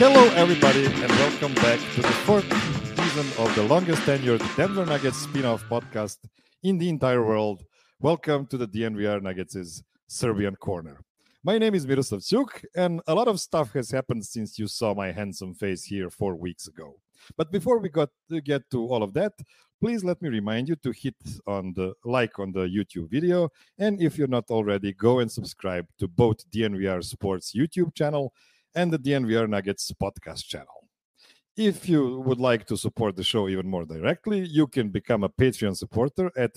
Hello, everybody, and welcome back to the fourth season of the longest tenured Denver Nuggets spin-off podcast in the entire world. Welcome to the DNVR Nuggets' Serbian Corner. My name is Miroslav Cuk, and a lot of stuff has happened since you saw my handsome face here 4 weeks ago. But before we get to all of that, please let me remind you to hit on the like on the YouTube video, and if you're not already, go and subscribe to both DNVR Sports YouTube channel and the DNVR Nuggets podcast channel. If you would like to support the show even more directly, you can become a Patreon supporter at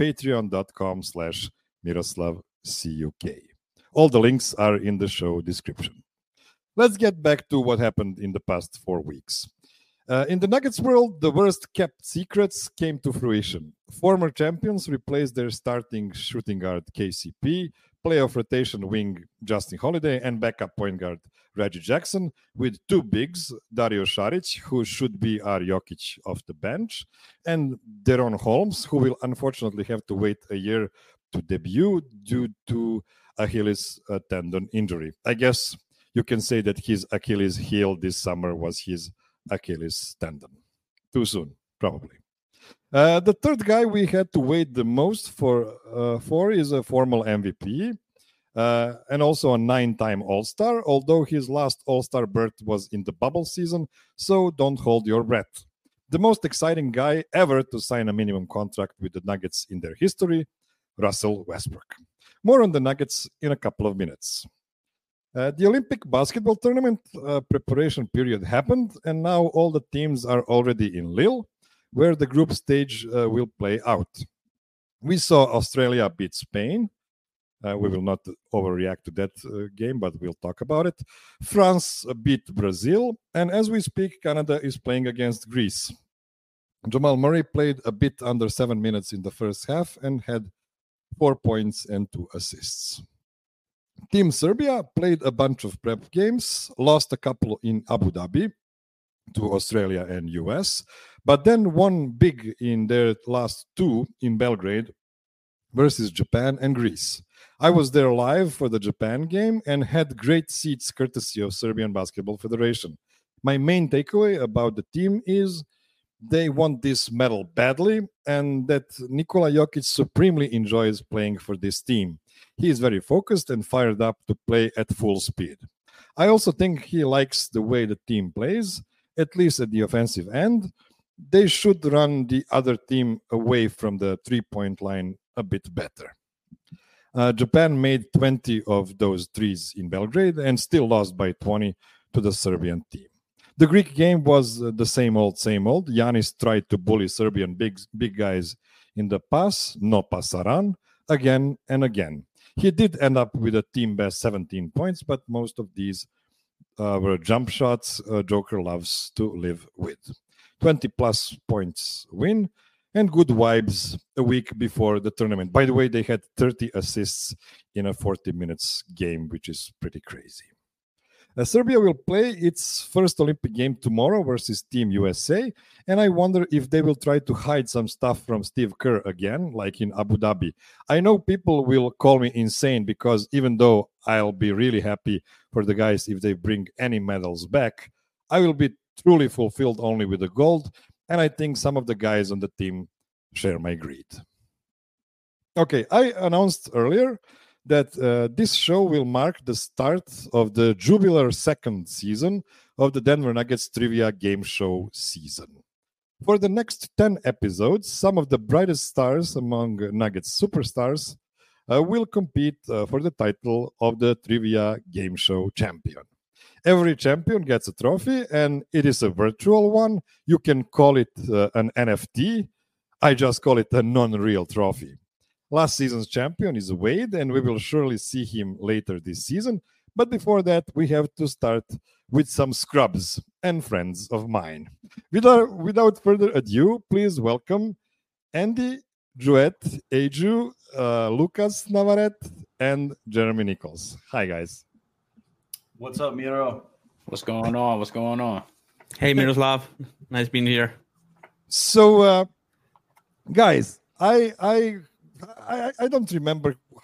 patreon.com/MiroslavCuk. All the links are in the show description. Let's get back to what happened in the past 4 weeks. In the Nuggets world, the worst kept secrets came to fruition. Former champions replaced their starting shooting guard KCP, playoff rotation wing Justin Holiday, and backup point guard Reggie Jackson with two bigs, Dario Saric, who should be our Jokic off the bench, and Deron Holmes, who will unfortunately have to wait a year to debut due to Achilles tendon injury. I guess you can say that his Achilles heel this summer was his Achilles tendon. Too soon, probably. The third guy we had to wait the most for is a formal MVP and also a 9-time All-Star, although his last All-Star berth was in the bubble season, so don't hold your breath. The most exciting guy ever to sign a minimum contract with the Nuggets in their history, Russell Westbrook. More on the Nuggets in a couple of minutes. The Olympic basketball tournament preparation period happened, and now all the teams are already in Lille, where the group stage will play out. We saw Australia beat Spain. We will not overreact to that game, but we'll talk about it. France beat Brazil, and as we speak, Canada is playing against Greece. Jamal Murray played a bit under 7 minutes in the first half and had 4 points and 2 assists. Team Serbia played a bunch of prep games, lost a couple in Abu Dhabi to Australia and US, but then won big in their last 2 in Belgrade versus Japan and Greece. I was there live for the Japan game and had great seats courtesy of Serbian Basketball Federation. My main takeaway about the team is they want this medal badly and that Nikola Jokic supremely enjoys playing for this team. He is very focused and fired up to play at full speed. I also think he likes the way the team plays, at least at the offensive end. They should run the other team away from the three-point line a bit better. Japan made 20 of those threes in Belgrade and still lost by 20 to the Serbian team. The Greek game was the same old, same old. Giannis tried to bully Serbian big guys in the pass, no pasaran, again and again. He did end up with a team best 17 points, but most of these were jump shots Joker loves to live with. 20-plus points win and good vibes a week before the tournament. By the way, they had 30 assists in a 40 minutes game, which is pretty crazy. Serbia will play its first Olympic game tomorrow versus Team USA, and I wonder if they will try to hide some stuff from Steve Kerr again, like in Abu Dhabi. I know people will call me insane because even though I'll be really happy for the guys if they bring any medals back, I will be truly fulfilled only with the gold, and I think some of the guys on the team share my greed. Okay, I announced earlier that this show will mark the start of the jubilar second season of the Denver Nuggets Trivia Game Show season. For the next 10 episodes, some of the brightest stars among Nuggets superstars will compete for the title of the Trivia Game Show champion. Every champion gets a trophy, and it is a virtual one. You can call it an NFT. I just call it a non-real trophy. Last season's champion is Wade, and we will surely see him later this season. But before that, we have to start with some scrubs and friends of mine. Without further ado, please welcome Andy Jouet, Eju, Lucas Navarrete, and Jeremy Nichols. Hi, guys. What's up, Miro? What's going on? What's going on? Hey, Miroslav. Nice being here. So, guys, I don't remember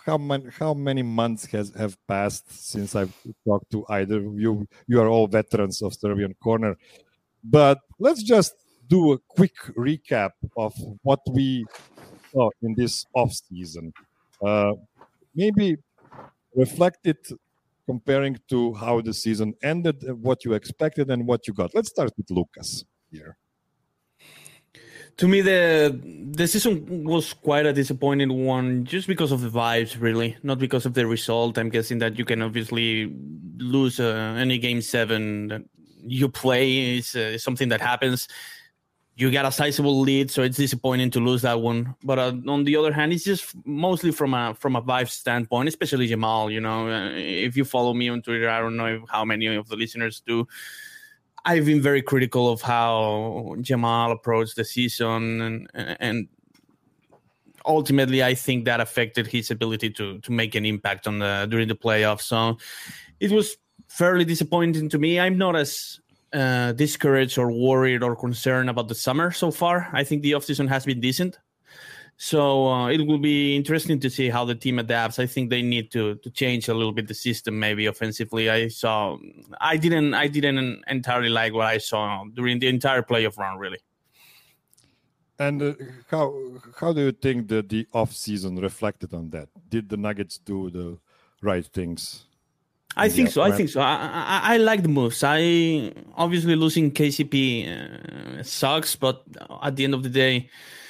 how many months have passed since I've talked to either of you. You are all veterans of Serbian Corner, but let's just do a quick recap of what we saw in this off season. Maybe reflect it comparing to how the season ended, what you expected, and what you got. Let's start with Lucas here. To me, the season was quite a disappointing one, just because of the vibes, really, not because of the result. I'm guessing that you can obviously lose any game 7 that you play. Is something that happens. You got a sizable lead, so it's disappointing to lose that one. But on the other hand, it's just mostly from a vibe standpoint, especially Jamal. If you follow me on Twitter, I don't know how many of the listeners do. I've been very critical of how Jamal approached the season, and ultimately, I think that affected his ability to make an impact during the playoffs. So it was fairly disappointing to me. I'm not as discouraged or worried or concerned about the summer so far. I think the offseason has been decent. So it will be interesting to see how the team adapts. I think they need to change a little bit the system, maybe offensively. I didn't entirely like what I saw during the entire playoff run, really. And how do you think that the off season reflected on that? Did the Nuggets do the right things? I think so. I like the moves. Obviously losing KCP sucks, but at the end of the day,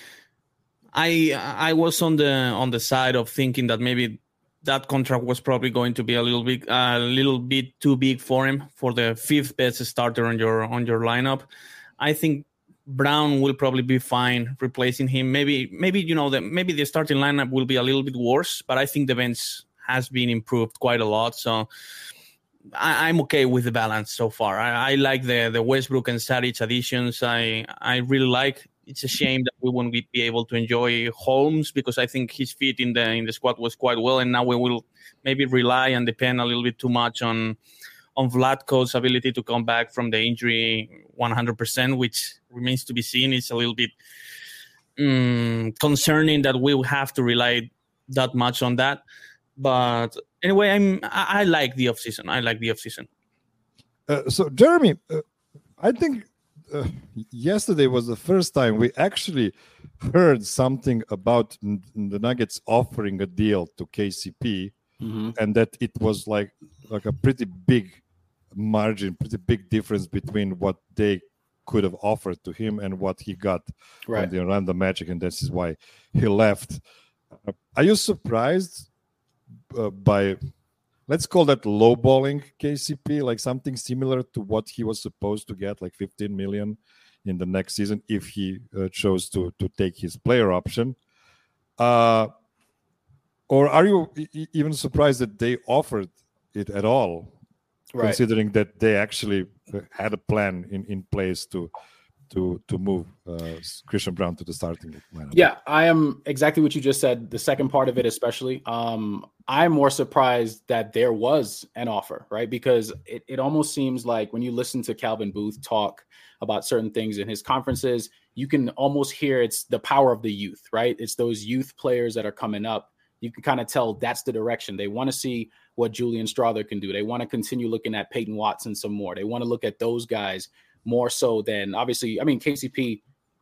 I was on the side of thinking that maybe that contract was probably going to be a little bit too big for him, for the 5th best starter on your lineup. I think Brown will probably be fine replacing him. Maybe the starting lineup will be a little bit worse, but I think the bench has been improved quite a lot. So I'm okay with the balance so far. I like the Westbrook and Saric additions. I really like. It's a shame that we won't be able to enjoy Holmes, because I think his fit in the squad was quite well, and now we will maybe rely and depend a little bit too much on Vlatko's ability to come back from the injury 100%, which remains to be seen. It's a little bit concerning that we will have to rely that much on that. But anyway, I like the offseason. So Jeremy, I think yesterday was the first time we actually heard something about the Nuggets offering a deal to KCP, and that it was like a pretty big margin, pretty big difference between what they could have offered to him and what he got from the Orlando Magic, and this is why he left. Are you surprised by, let's call that lowballing KCP, like something similar to what he was supposed to get, like 15 million in the next season if he chose to take his player option? Or are you even surprised that they offered it at all, considering that they actually had a plan in place to move Christian Brown to the starting lineup? Yeah, I am exactly what you just said. The second part of it, especially, I'm more surprised that there was an offer, right? Because it almost seems like when you listen to Calvin Booth talk about certain things in his conferences, you can almost hear it's the power of the youth, right? It's those youth players that are coming up. You can kind of tell that's the direction. They want to see what Julian Strawther can do. They want to continue looking at Peyton Watson some more. They want to look at those guys more so than, obviously, KCP,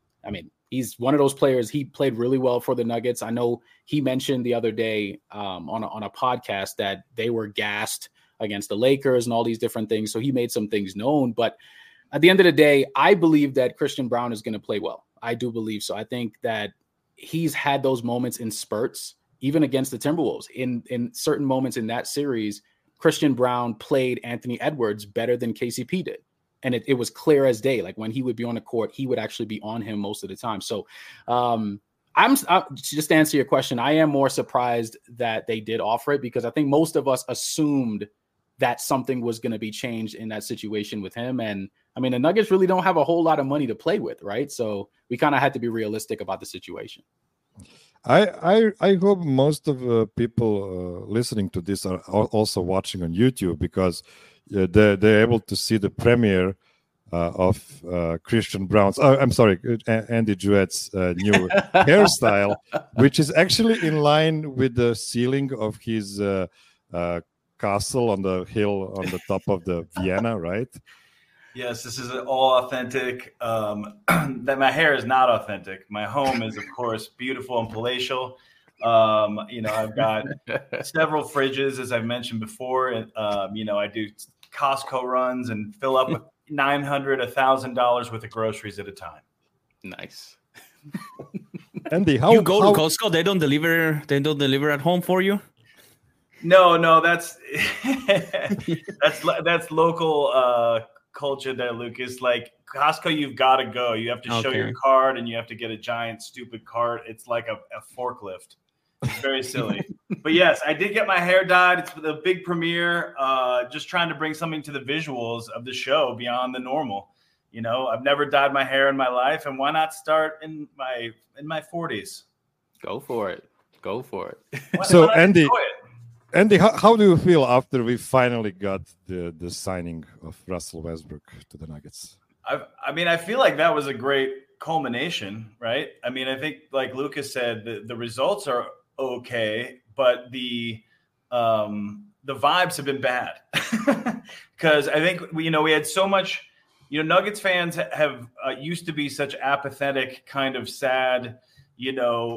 he's one of those players. He played really well for the Nuggets. I know he mentioned the other day on a podcast that they were gassed against the Lakers and all these different things. So he made some things known. But at the end of the day, I believe that Christian Brown is going to play well. I do believe so. I think that he's had those moments in spurts, even against the Timberwolves. In certain moments in that series, Christian Brown played Anthony Edwards better than KCP did. And it was clear as day. Like when he would be on the court, he would actually be on him most of the time. So I'm just to answer your question, I am more surprised that they did offer it, because I think most of us assumed that something was going to be changed in that situation with him. And the Nuggets really don't have a whole lot of money to play with, right? So we kind of had to be realistic about the situation. I hope most of the people listening to this are also watching on YouTube, because they're able to see the premiere Christian Brown's. I'm sorry, Andy Jouette's new hairstyle, which is actually in line with the ceiling of his castle on the hill on the top of the Vienna, right? Yes, this is all authentic. That my hair is not authentic. My home is, of course, beautiful and palatial. I've got several fridges, as I've mentioned before. And, I do Costco runs and fill up with $900, $1,000 worth of groceries at a time. Nice. Andy, you go to Costco? They don't deliver. They don't deliver at home for you. No, that's that's local culture there, Lucas. Like Costco, you've got to go. You have to show your card, and you have to get a giant, stupid cart. It's like a forklift. It's very silly. But yes, I did get my hair dyed. It's the big premiere. Just trying to bring something to the visuals of the show beyond the normal. I've never dyed my hair in my life, and why not start in my 40s? Go for it. So, Andy, how do you feel after we finally got the signing of Russell Westbrook to the Nuggets? I feel like that was a great culmination, right? I think, like Lucas said, the results are okay, but the vibes have been bad because I think we had so much. Nuggets fans have used to be such apathetic, kind of sad. I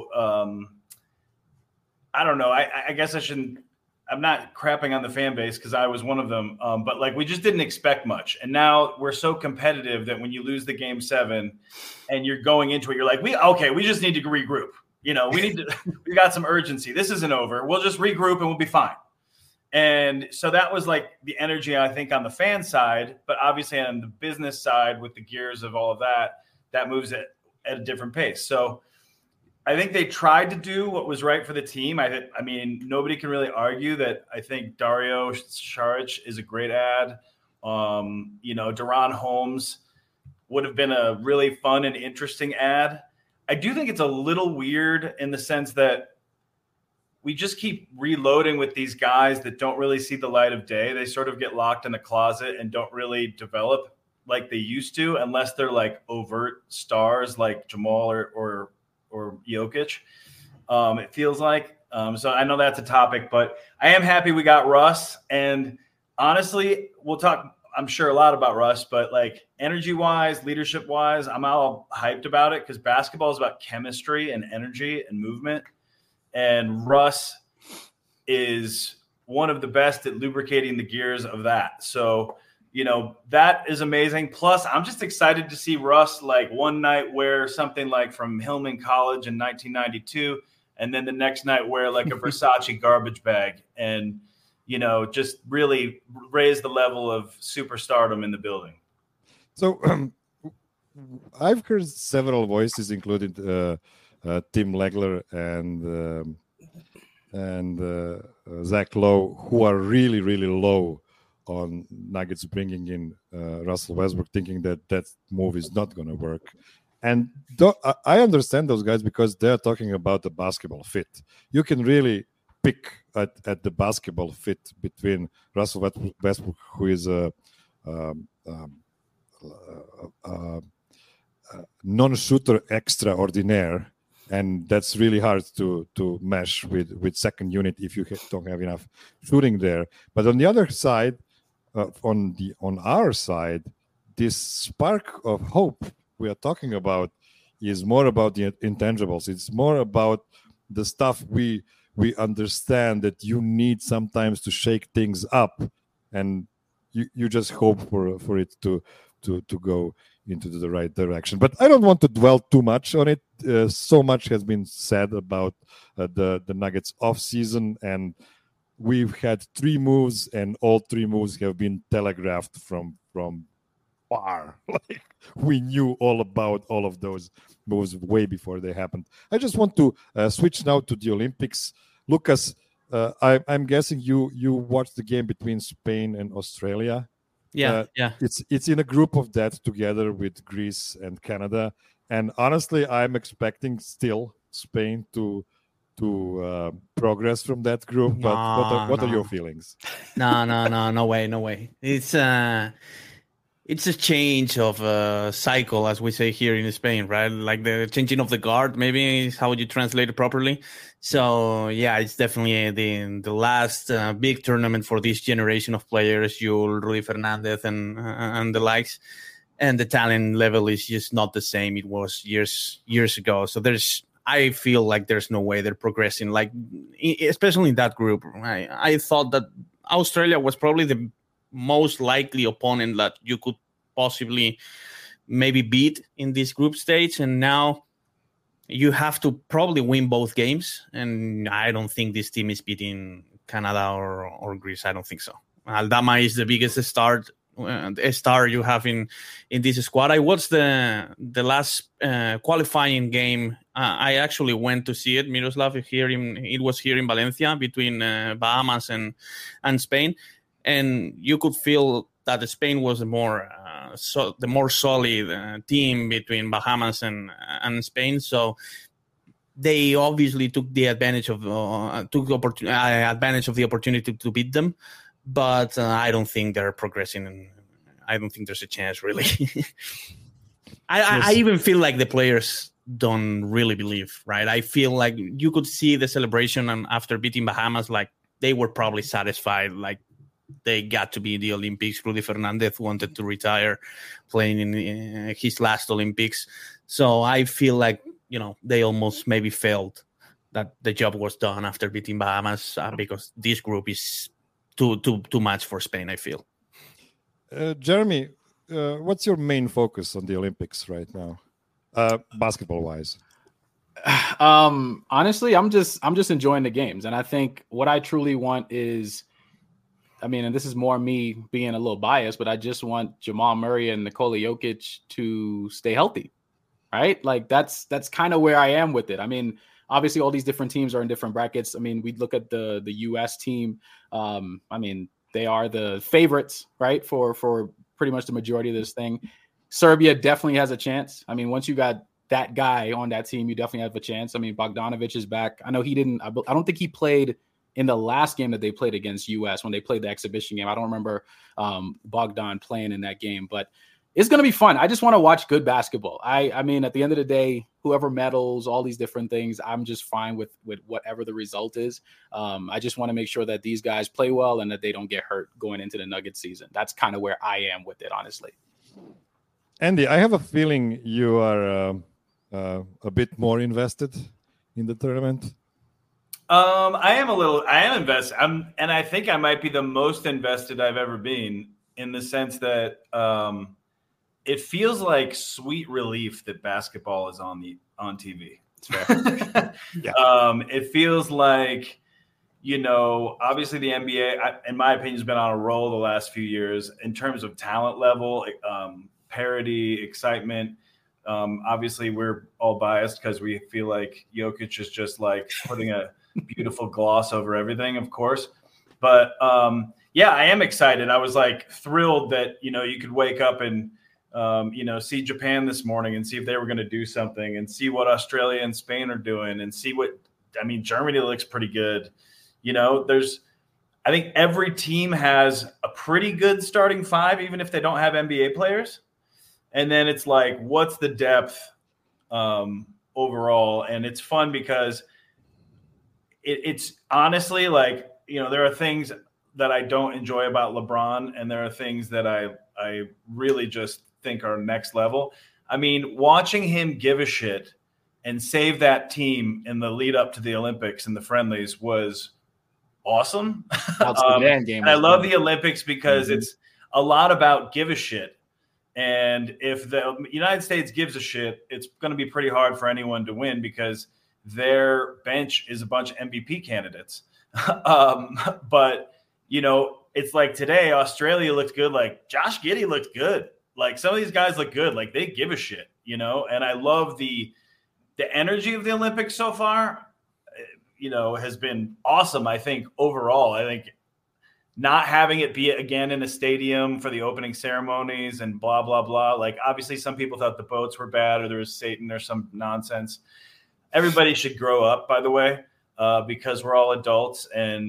don't know. I guess I shouldn't. I'm not crapping on the fan base because I was one of them. But we just didn't expect much. And now we're so competitive that when you lose the game 7 and you're going into it, you're like, we just need to regroup. We got some urgency. This isn't over. We'll just regroup and we'll be fine. And so that was like the energy, I think, on the fan side, but obviously on the business side with the gears of all of that moves at a different pace. So I think they tried to do what was right for the team. Nobody can really argue that. I think Dario Saric is a great ad. Deron Holmes would have been a really fun and interesting ad. I do think it's a little weird in the sense that we just keep reloading with these guys that don't really see the light of day. They sort of get locked in a closet and don't really develop like they used to, unless they're like overt stars like Jamal or Jokic. It feels like. So I know that's a topic, but I am happy we got Russ. And honestly, we'll talk, I'm sure, a lot about Russ, but like energy-wise, leadership-wise, I'm all hyped about it because basketball is about chemistry and energy and movement. And Russ is one of the best at lubricating the gears of that. So, that is amazing. Plus, I'm just excited to see Russ like one night wear something like from Hillman College in 1992, and then the next night wear like a Versace garbage bag and, just really raise the level of superstardom in the building. So I've heard several voices, including Tim Legler and Zach Lowe, who are really, really low on Nuggets bringing in Russell Westbrook, thinking that move is not going to work. And I understand those guys because they're talking about the basketball fit. You can really pick at the basketball fit between Russell Westbrook, who is a non-shooter extraordinaire, and that's really hard to mesh with second unit if you don't have enough shooting there. But on the other side, on our side, this spark of hope we are talking about is more about the intangibles. It's more about the stuff we understand that you need sometimes to shake things up, and you just hope for it to go into the right direction. But I don't want to dwell too much on it. So much has been said about the Nuggets off season, and we've had 3 moves, and all 3 moves have been telegraphed from far. Like we knew all about all of those moves way before they happened. I just want to switch now to the Olympics. Lucas, I'm guessing you watched the game between Spain and Australia. Yeah. It's in a group of that together with Greece and Canada. And honestly, I'm expecting still Spain to progress from that group. But what are your feelings? No way. It's it's a change of cycle, as we say here in Spain, right? Like the changing of the guard, maybe is how you translate it properly. So yeah, it's definitely the last big tournament for this generation of players, Yul, Rudy Fernandez, and the likes. And the talent level is just not the same it was years ago. So I feel like there's no way they're progressing. Like especially in that group, I thought that Australia was probably the most likely opponent that you could possibly maybe beat in this group stage, and now you have to probably win both games, and I don't think this team is beating Canada or Greece. I don't think so. Aldama is the biggest star you have in this squad. I watched the last qualifying game. I actually went to see it, Miroslav. It was here in Valencia between Bahamas and Spain. And you could feel that Spain was the more solid team between Bahamas and Spain. So they obviously took advantage of the opportunity to beat them. But I don't think they're progressing, and I don't think there's a chance really. I even feel like the players don't really believe. Right? I feel like you could see the celebration after beating Bahamas, like they were probably satisfied, like. They got to be in the Olympics. Rudy Fernandez wanted to retire playing in his last Olympics. So I feel like, they almost maybe felt that the job was done after beating Bahamas because this group is too much for Spain, I feel. Jeremy, what's your main focus on the Olympics right now, basketball-wise? Honestly, I'm just enjoying the games. And I think what I truly want is, and this is more me being a little biased, but I just want Jamal Murray and Nikola Jokic to stay healthy, right? Like that's kind of where I am with it. Obviously all these different teams are in different brackets. We look at the U.S. team. They are the favorites, right? For pretty much the majority of this thing. Serbia definitely has a chance. Once you got that guy on that team, you definitely have a chance. Bogdanovic is back. I know I don't think he played in the last game that they played against US when they played the exhibition game. I don't remember Bogdan playing in that game, but it's going to be fun. I just want to watch good basketball. At the end of the day, whoever medals, all these different things, I'm just fine with whatever the result is. I just want to make sure that these guys play well and that they don't get hurt going into the Nuggets season. That's kind of where I am with it, honestly. Andy, I have a feeling you are a bit more invested in the tournament. I am invested. And I think I might be the most invested I've ever been, in the sense that it feels like sweet relief that basketball is on TV. It's fair. Yeah. It feels like, obviously the NBA, in my opinion, has been on a roll the last few years in terms of talent level, parity, excitement. Obviously we're all biased because we feel like Jokic is just like putting a beautiful gloss over everything, of course. But I am excited. I was like thrilled that, you could wake up and, see Japan this morning and see if they were going to do something, and see what Australia and Spain are doing, and see Germany looks pretty good. I think every team has a pretty good starting five, even if they don't have NBA players. And then it's like, what's the depth overall? And it's fun because it's honestly like, there are things that I don't enjoy about LeBron, and there are things that I really just think are next level. Watching him give a shit and save that team in the lead up to the Olympics and the friendlies was awesome. And I love the Olympics because it's a lot about give a shit. And if the United States gives a shit, it's going to be pretty hard for anyone to win because their bench is a bunch of MVP candidates. But, it's like today, Australia looked good. Like Josh Giddey looked good. Like some of these guys look good. Like they give a shit, and I love the energy of the Olympics so far, has been awesome. I think overall, not having it be again in a stadium for the opening ceremonies and blah, blah, blah. Like, obviously, some people thought the boats were bad or there was Satan or some nonsense. Everybody should grow up, by the way, because we're all adults. And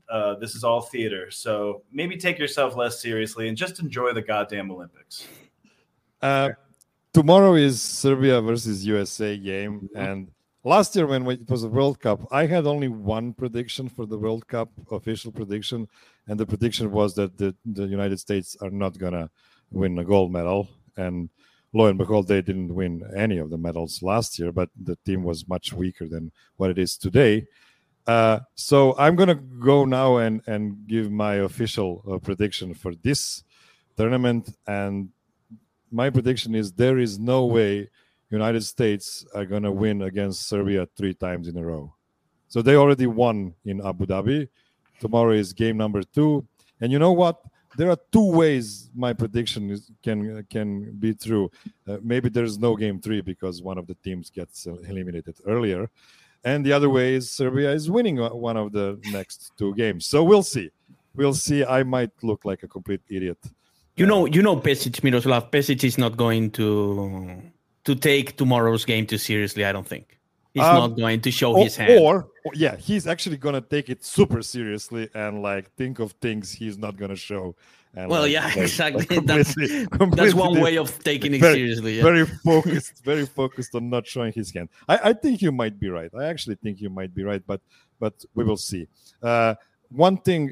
this is all theater. So maybe take yourself less seriously and just enjoy the goddamn Olympics. Tomorrow is Serbia versus USA game. And last year when it was a World Cup, I had only one prediction for the World Cup, official prediction. And the prediction was that the United States are not going to win a gold medal. And lo and behold, they didn't win any of the medals last year, but the team was much weaker than what it is today. So I'm going to go now and give my official prediction for this tournament. And my prediction is there is no way United States are going to win against Serbia 3 times in a row. So they already won in Abu Dhabi. Tomorrow is game number 2. And you know what? There are 2 ways my prediction can be true. Maybe there's no game 3 because one of the teams gets eliminated earlier. And the other way is Serbia is winning one of the next 2 games. So we'll see. We'll see. I might look like a complete idiot. You know, Pesic, Miroslav. Pesic is not going to take tomorrow's game too seriously. I don't think he's not going to show his hand. Or he's actually going to take it super seriously and like think of things he's not going to show. And exactly. That's one way of taking it seriously. Yeah. Very focused on not showing his hand. I think you might be right. I actually think you might be right, but we will see. One thing.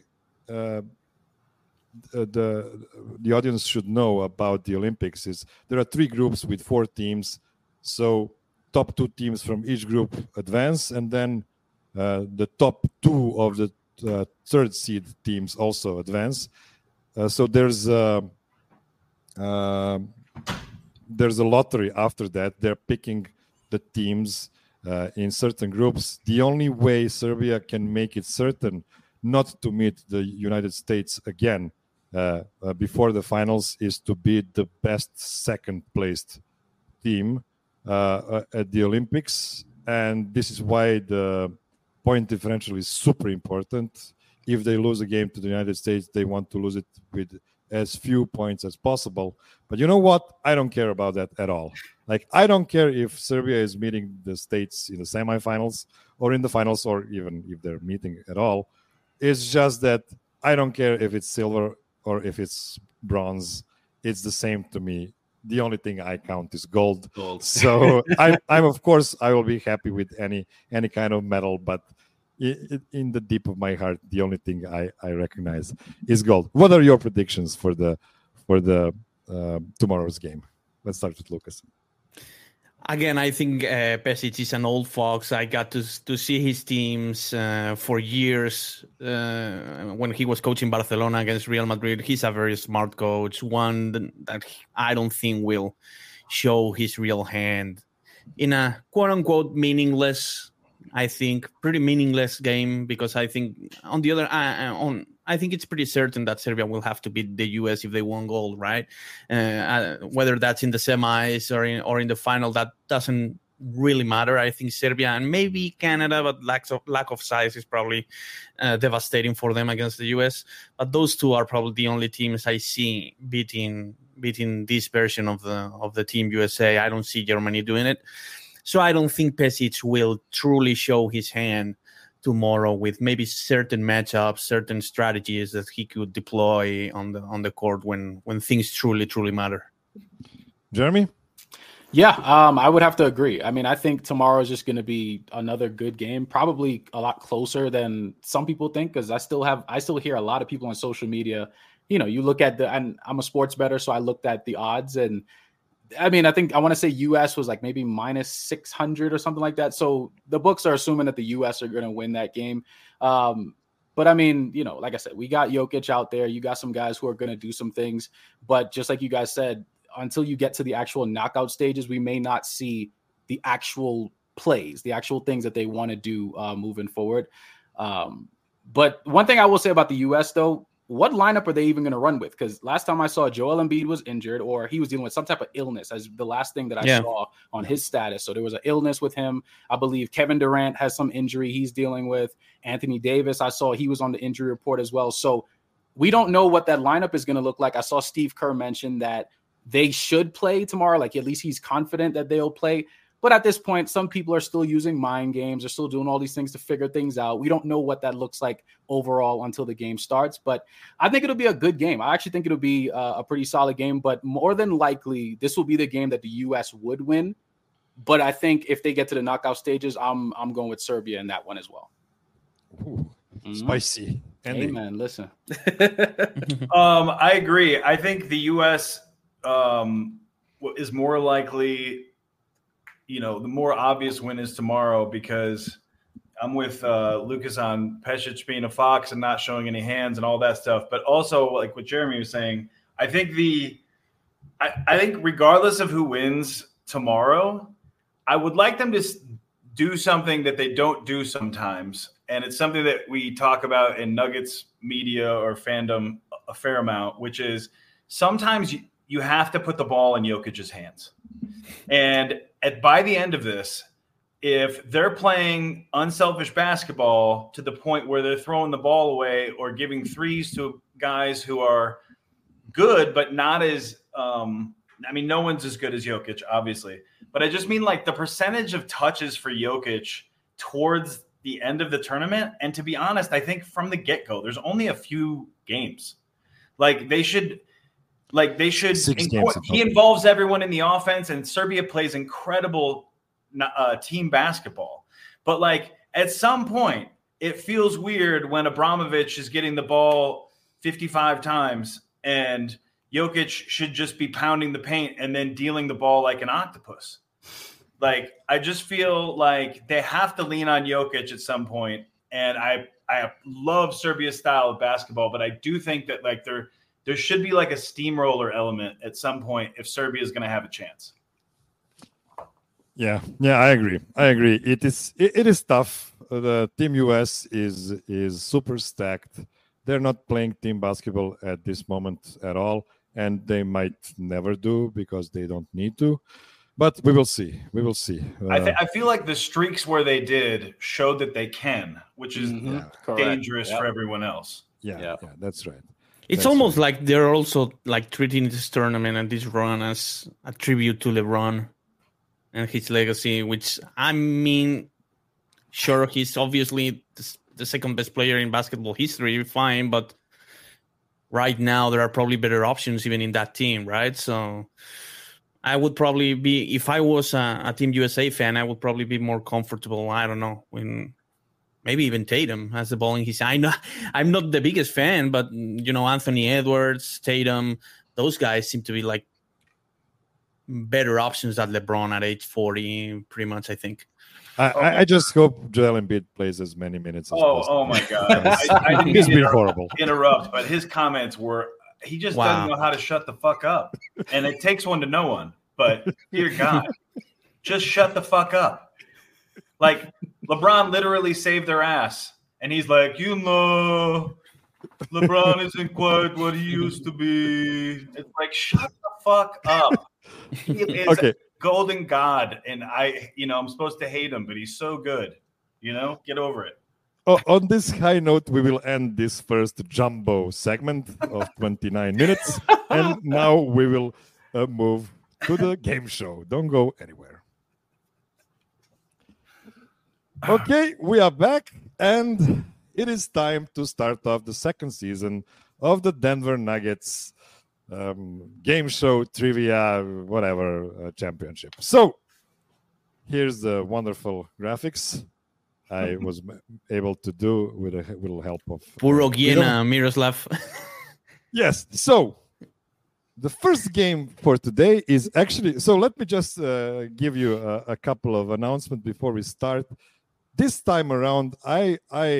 The audience should know about the Olympics is there are 3 groups with 4 teams. So top 2 teams from each group advance, and then the top 2 of the 3rd seed teams also advance. So there's a lottery after that. They're picking the teams in certain groups. The only way Serbia can make it certain not to meet the United States again before the finals is to be the best 2nd placed team at the Olympics. And this is why the point differential is super important. If they lose a game to the United States, they want to lose it with as few points as possible. But you know what? I don't care about that at all. Like, I don't care if Serbia is meeting the States in the semifinals or in the finals, or even if they're meeting at all. It's just that I don't care if it's silver or if it's bronze. It's the same to me. The only thing I count is gold. So I'm of course I will be happy with any kind of medal, but in the deep of my heart, the only thing I recognize is gold. What are your predictions for the tomorrow's game? Let's start with Lucas. Again, I think Pesic is an old fox. I got to see his teams for years when he was coaching Barcelona against Real Madrid. He's a very smart coach, one that I don't think will show his real hand in a quote-unquote meaningless, I think, pretty meaningless game, because I think on the other I think it's pretty certain that Serbia will have to beat the US if they won gold, right? Whether that's in the semis or in the final, that doesn't really matter. I think Serbia and maybe Canada, but lack of size is probably devastating for them against the US. But those 2 are probably the only teams I see beating this version of the Team USA. I don't see Germany doing it. So I don't think Pesic will truly show his hand tomorrow with maybe certain matchups, certain strategies that he could deploy on the court when things truly matter. Jeremy? Yeah, I would have to agree. I mean, I think tomorrow is just going to be another good game, probably a lot closer than some people think, because I still hear a lot of people on social media. You know, you look at and I'm a sports bettor, so I looked at the odds, and I mean, I want to say US was like maybe minus 600 or something like that. So the books are assuming that the US are going to win that game. But I mean, you know, like I said, we got Jokic out there. You got some guys who are going to do some things. But just like you guys said, until you get to the actual knockout stages, we may not see the actual plays, the actual things that they want to do moving forward. But one thing I will say about the US, though, what lineup are they even going to run with? Because last time I saw, Joel Embiid was injured, or he was dealing with some type of illness, as the last thing that I saw on his status. So there was an illness with him. I believe Kevin Durant has some injury he's dealing with. Anthony Davis, I saw he was on the injury report as well. So we don't know what that lineup is going to look like. I saw Steve Kerr mention that they should play tomorrow. Like, at least he's confident that they'll play. But at this point, some people are still using mind games. They're still doing all these things to figure things out. We don't know what that looks like overall until the game starts. But I think it'll be a good game. I actually think it'll be a pretty solid game. But more than likely, this will be the game that the U.S. would win. But I think if they get to the knockout stages, I'm going with Serbia in that one as well. Ooh, spicy. Hey, man, listen. I agree. I think the U.S. Is more likely, the more obvious win is tomorrow, because I'm with Lucas on Pesic being a fox and not showing any hands and all that stuff. But also, like what Jeremy was saying, I think I think regardless of who wins tomorrow, I would like them to do something that they don't do sometimes. And it's something that we talk about in Nuggets media or fandom a fair amount, which is sometimes you have to put the ball in Jokic's hands. And by the end of this, if they're playing unselfish basketball to the point where they're throwing the ball away or giving threes to guys who are good, but not as no one's as good as Jokic, obviously. But I just mean like the percentage of touches for Jokic towards the end of the tournament. And to be honest, I think from the get-go, there's only a few games. They should he involves everyone in the offense, and Serbia plays incredible team basketball. But at some point, it feels weird when Abramovich is getting the ball 55 times and Jokic should just be pounding the paint and then dealing the ball like an octopus. I just feel like they have to lean on Jokic at some point. And I love Serbia's style of basketball, but I do think that there should be a steamroller element at some point if Serbia is going to have a chance. Yeah, I agree. It is tough. The Team US is super stacked. They're not playing team basketball at this moment at all, and they might never do because they don't need to. But we will see. I feel like the streaks where they did showed that they can, which is dangerous for everyone else. Yeah, that's right. It's almost like they're also treating this tournament and this run as a tribute to LeBron and his legacy, which sure, he's obviously the second best player in basketball history, fine, but right now there are probably better options even in that team, right? So I would probably be, if I was a Team USA fan, I would probably be more comfortable, I don't know, when maybe even Tatum has the ball in his hand. I'm not the biggest fan, but, Anthony Edwards, Tatum, those guys seem to be better options than LeBron at age 40, pretty much, I think. I just hope Joel Embiid plays as many minutes as possible. Oh my God. I didn't He's been horrible. Interrupt, but his comments were, he just doesn't know how to shut the fuck up. And it takes one to know one. But dear God, just shut the fuck up. LeBron literally saved their ass. And he's like, LeBron isn't quite what he used to be. It's shut the fuck up. He is a golden god. And I'm supposed to hate him, but he's so good. Get over it. On this high note, we will end this first jumbo segment of 29 minutes. And now we will move to the game show. Don't go anywhere. Okay, we are back, and it is time to start off the second season of the Denver Nuggets game show, trivia, whatever, championship. So, here's the wonderful graphics I was able to do with a little help of Purogiena, Miroslav. Yes, so the first game for today is actually, so let me just give you a couple of announcements before we start. This time around, I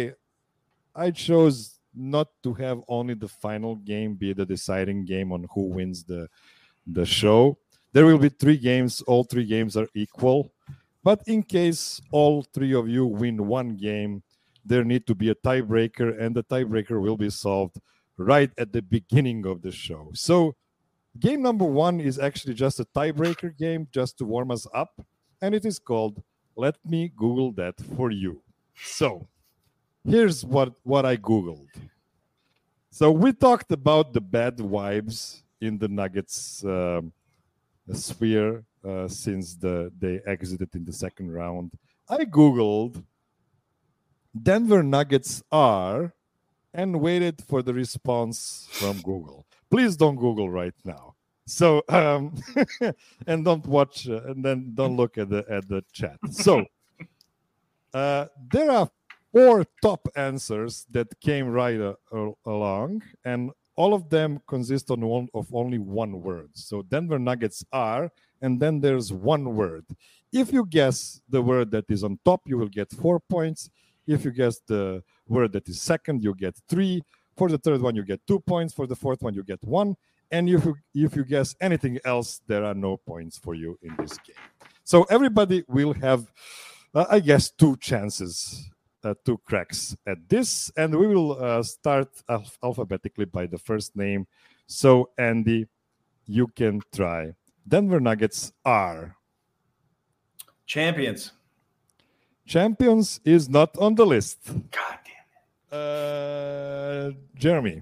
chose not to have only the final game be the deciding game on who wins the show. There will be 3 games. All 3 games are equal. But in case all 3 of you win one game, there need to be a tiebreaker, and the tiebreaker will be solved right at the beginning of the show. So game number 1 is actually just a tiebreaker game, just to warm us up, and it is called Let Me Google That For You. So here's what I Googled. So we talked about the bad vibes in the Nuggets sphere since they exited in the second round. I Googled Denver Nuggets are and waited for the response from Google. Please don't Google right now. So and don't watch and then don't look at the chat. So there are 4 top answers that came right along, and all of them consist of only one word. So Denver Nuggets are, and then there's one word. If you guess the word that is on top, you will get 4 points. If you guess the word that is second, you get 3. For the third one, you get 2 points. For the fourth one, you get 1. And if you guess anything else, there are no points for you in this game. So everybody will have, I guess, 2 chances, 2 cracks at this. And we will start alphabetically by the first name. So, Andy, you can try. Denver Nuggets are. Champions. Champions is not on the list. God damn it. Jeremy.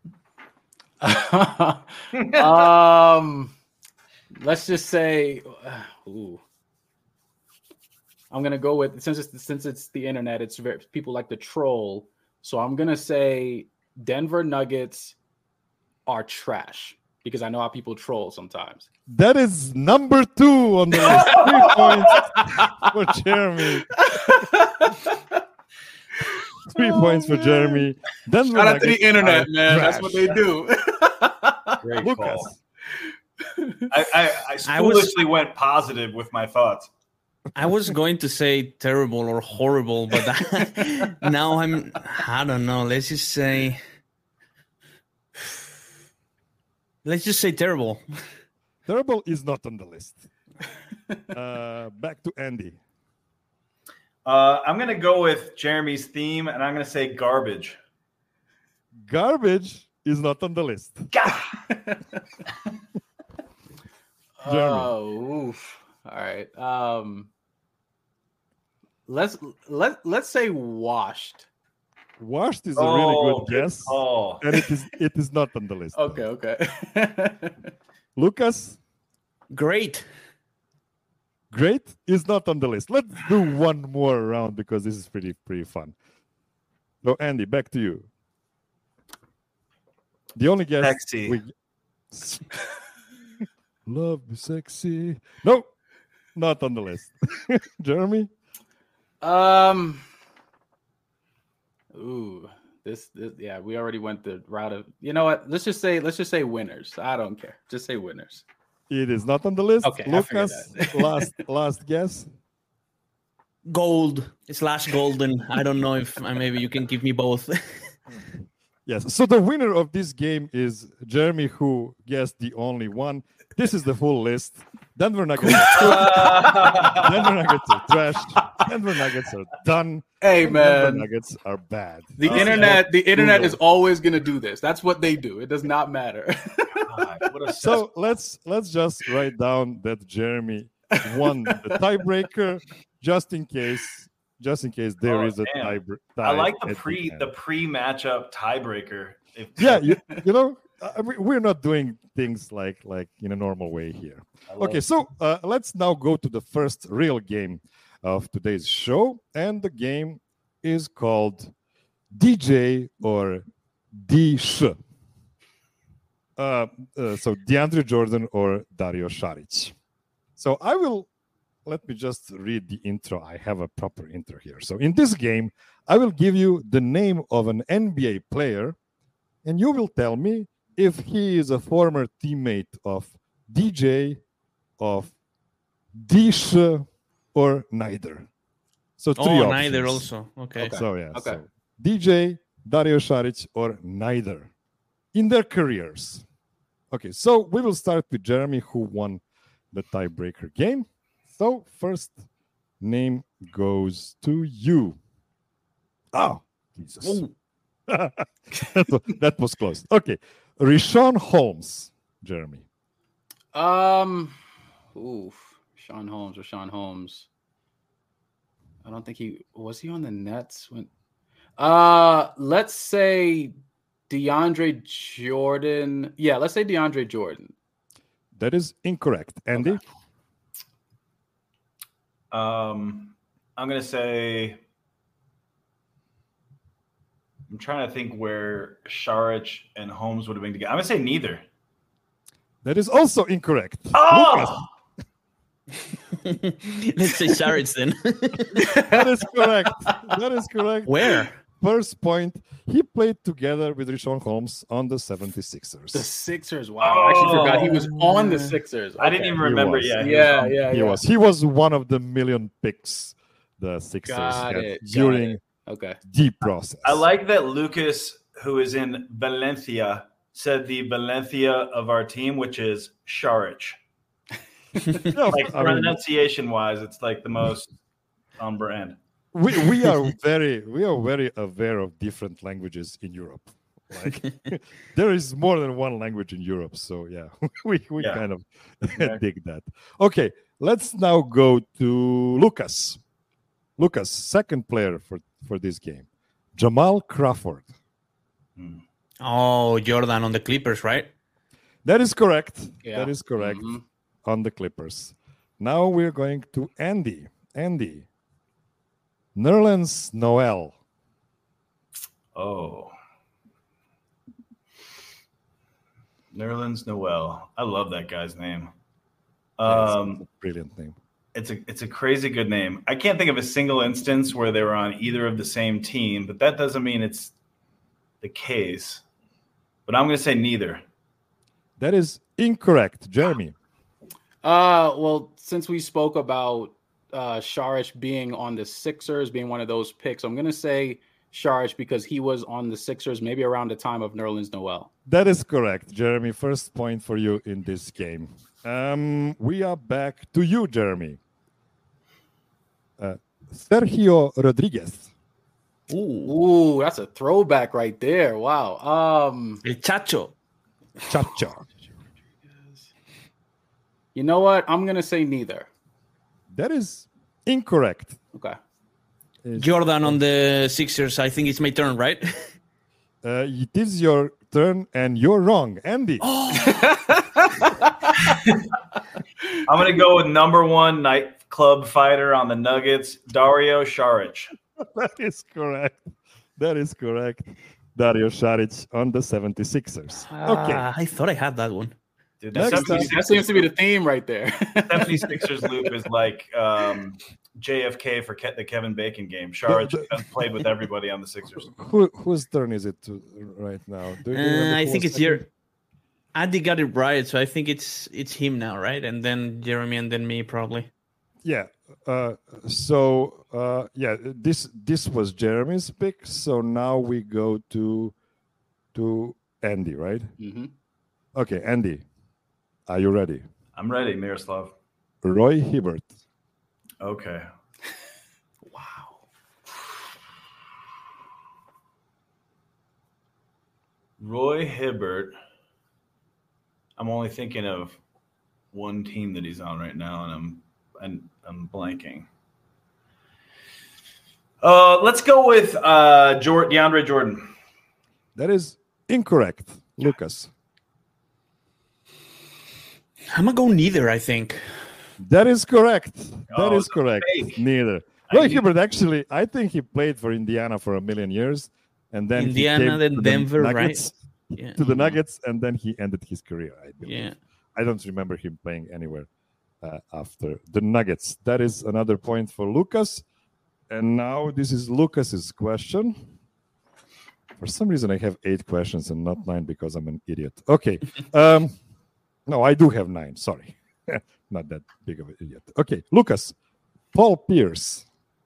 Let's just say, I'm gonna go with since it's the internet. It's very people like to troll, so I'm gonna say Denver Nuggets are trash because I know how people troll sometimes. That is number 2 on the list. 3 points for Jeremy. 3 points for Jeremy. Denver Shout out Nuggets to the internet, man. trash. That's what they do. Great Lucas. call. I foolishly went positive with my thoughts. I was going to say terrible or horrible, but now I don't know. Let's just say terrible. Terrible is not on the list. Back to Andy. I'm going to go with Jeremy's theme, and I'm going to say garbage. Garbage is not on the list. Oh, oof. All right. Let's say washed. Washed is a really good guess, Oh, and it is not on the list. Okay. Lucas, Great. great is not on the list. Let's do one more round because this is pretty fun. So Andy, back to you. The only guess sexy. Love is sexy. No, not on the list. Jeremy? This yeah, we already went the route of, you know what? Let's just say winners. I don't care. Just say winners. It is not on the list. Okay, I figured Lucas, last guess. Gold/golden. I don't know if maybe you can give me both. Yes. So the winner of this game is Jeremy, who guessed the only one. This is the full list. Denver Nuggets. Denver Nuggets are trash. Denver Nuggets are done. Hey man, Denver Nuggets are bad. the internet is always gonna do this. That's what they do. It does not matter. So let's just write down that Jeremy won the tiebreaker, just in case there is a tie. I like the pre-matchup tiebreaker. Yeah, you know, we're not doing things like in a normal way here. Okay, so let's now go to the first real game of today's show, and the game is called DJ or D-Sh. So DeAndre Jordan or Dario Saric. So let me just read the intro. I have a proper intro here. So in this game, I will give you the name of an NBA player, and you will tell me if he is a former teammate of DJ, of D-Sh, or neither. So 3 options. Neither also. Okay. So yeah. Okay. So DJ, Dario Saric, or neither in their careers. Okay, so we will start with Jeremy, who won the tiebreaker game. So first name goes to you. Oh, Jesus. that was close. Okay. Richaun Holmes, Jeremy. Richaun Holmes. I don't think he was on the Nets when. Let's say DeAndre Jordan. Yeah, let's say DeAndre Jordan. That is incorrect. Andy? I'm gonna say. I'm trying to think where Šarić and Holmes would have been together. I'm gonna say neither. That is also incorrect. Oh, Let's say Šarić then. That is correct. That is correct. Where? First point, he played together with Richaun Holmes on the 76ers. The Sixers. Wow. I actually forgot he was on the Sixers. I didn't even remember. was. Yeah, He was one of the million picks the Sixers Got had it, during Okay. the process. I like that Lucas, who is in Valencia, said the Valencia of our team, which is Šarić. Yeah, Like I mean, pronunciation-wise, it's like the most on brand. we are very aware of different languages in Europe. Like there is more than one language in Europe, so yeah, we Yeah. kind of Exactly. dig that. Okay, let's now go to Lucas. Lucas, second player for this game, Jamal Crawford. Oh, Jordan on the Clippers, right? That is correct. Yeah. That is correct Mhm. on the Clippers. Now we're going to Andy. Andy, Nerlens Noel. Oh. Nerlens Noel. I love that guy's name. That's a brilliant name. It's a crazy good name. I can't think of a single instance where they were on either of the same team, but that doesn't mean it's the case. But I'm going to say neither. That is incorrect, Jeremy. Well, since we spoke about Šarić being on the Sixers, being one of those picks, I'm gonna say Šarić because he was on the Sixers maybe around the time of Nerlens Noel. That is correct, Jeremy. First point for you in this game. We are back to you, Jeremy. Sergio Rodriguez. Ooh, that's a throwback right there. Wow. El Chacho. Chacha. You know what? I'm gonna say neither. That is incorrect. Okay. Jordan on the Sixers. I think it's my turn, right? It is your turn, and you're wrong, Andy. I'm going to go with number one nightclub fighter on the Nuggets, Dario Šarić. That is correct. That is correct. Dario Šarić on the 76ers. Okay. I thought I had that one. Dude, Next the time- That seems to be the theme right there. 76ers loop is like JFK for the Kevin Bacon game. Šarić has played with everybody on the Sixers. Whose turn is it right now? Do you remember I who think was it's your Andy got it right, so I think it's him now, right? And then Jeremy, and then me, probably. Yeah. This was Jeremy's pick. So now we go to Andy, right? Mm-hmm. Okay, Andy, are you ready? I'm ready, Miroslav. Roy Hibbert. Okay. Wow. Roy Hibbert. I'm only thinking of one team that he's on right now, and I'm blanking. Let's go with DeAndre Jordan. That is incorrect, Lucas. I'm gonna go neither. I think. That is correct. That Oh, is correct. fake. Neither. I Roy knew- Hibbert, actually, I think he played for Indiana for a million years. And then Indiana, he came then to the Denver, right? Nuggets, Yeah. to the Nuggets, and then he ended his career, I believe. Yeah. I don't remember him playing anywhere after the Nuggets. That is another point for Lucas. And now this is Lucas's question. For some reason, I have 8 questions and not 9 because I'm an idiot. Okay. No, I do have 9. Sorry. Not that big of an idiot. Okay. Lucas, Paul Pierce.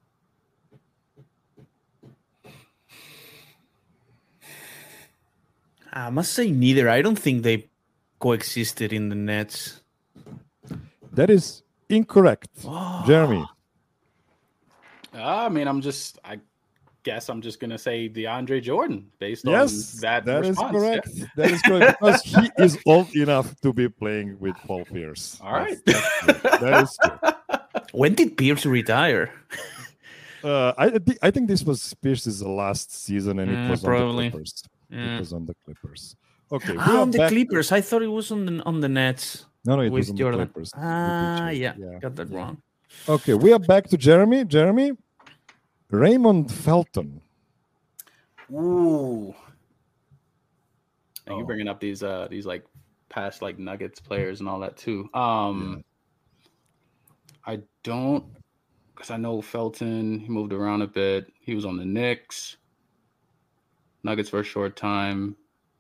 I must say neither. I don't think they coexisted in the Nets. That is incorrect. Jeremy. I mean, I guess I'm just gonna say DeAndre Jordan based Yes, on that. that is response. correct. That is correct because he is old enough to be playing with Paul Pierce. All right. That's true. That is true. When did Pierce retire? I think this was Pierce's last season, and it was probably. on the Clippers. Yeah. It was on the Clippers. Okay, we Ah, are on the back- Clippers. I thought it was on the Nets No, it was with on Jordan. the Clippers. Ah, with yeah, PJ. got that wrong. Okay, we are back to Jeremy. Jeremy, Raymond Felton. Ooh. And you're bringing up these like past like Nuggets players and all that too. I don't, because I know Felton. He moved around a bit. He was on the Knicks, Nuggets for a short time.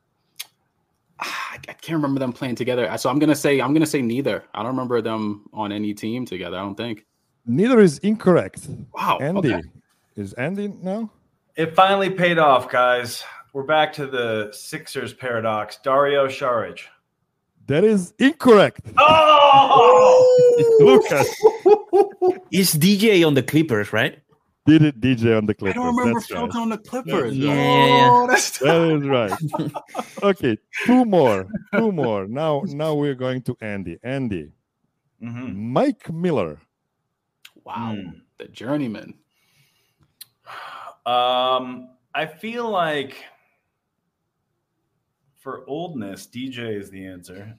I can't remember them playing together. So I'm gonna say neither. I don't remember them on any team together. I don't think. Neither is incorrect. Wow. Andy. Okay. Is Andy now? It finally paid off, guys. We're back to the Sixers paradox. Dario Saric. That is incorrect. Oh! Lucas. Is DJ on the Clippers, right? Did it DJ on the I Clippers? don't remember That's right. Felton on the Clippers. Yeah. Oh, that's That is right. Okay, two more. Now we're going to Andy. Andy. Mhm. Mike Miller. wow. The journeyman. I feel like for oldness, DJ is the answer.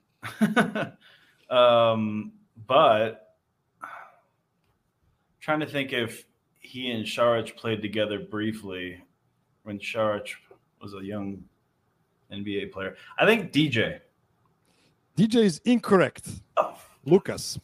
But trying to think if he and Saric played together briefly when Saric was a young NBA player. I think DJ. DJ is incorrect. Lucas.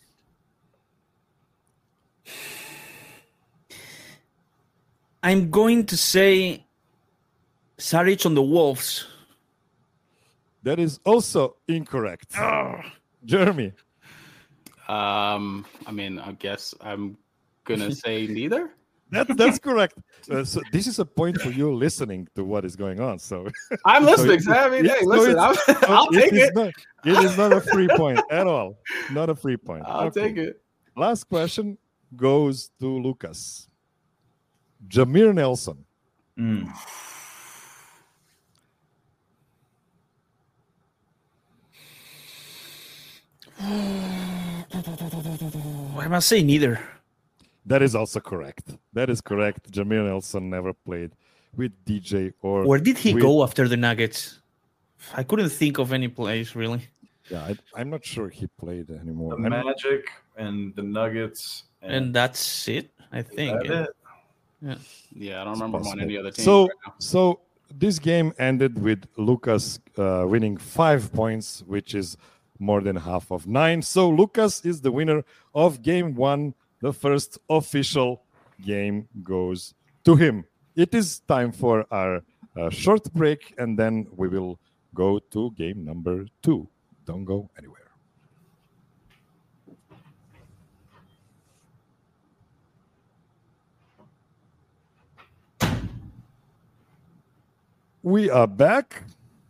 I'm going to say Saric on the Wolves. That is also incorrect. Jeremy. I mean, I guess I'm gonna say neither. That's correct. So this is a point for you listening to what is going on. So I'm listening. So I mean, it- hey, so listen, it's- I'll take it. It is not a free point at all. Not a free point. I'll Okay. take it. Last question goes to Lucas. Jameer Nelson. I must say neither. That is also correct. That is correct. Jameer Nelson never played with DJ or Where did he with- go after the Nuggets? I couldn't think of any place really. Yeah, I'm not sure he played anymore. The Magic and the Nuggets. And that's it, I think. That's it. Yeah, I don't remember him on any other team. So, right now. so this game ended with Lucas winning 5 points, which is more than half of 9. So Lucas is the winner of game 1. The first official game goes to him. It is time for our short break, and then we will go to game number 2. Don't go anywhere. We are back.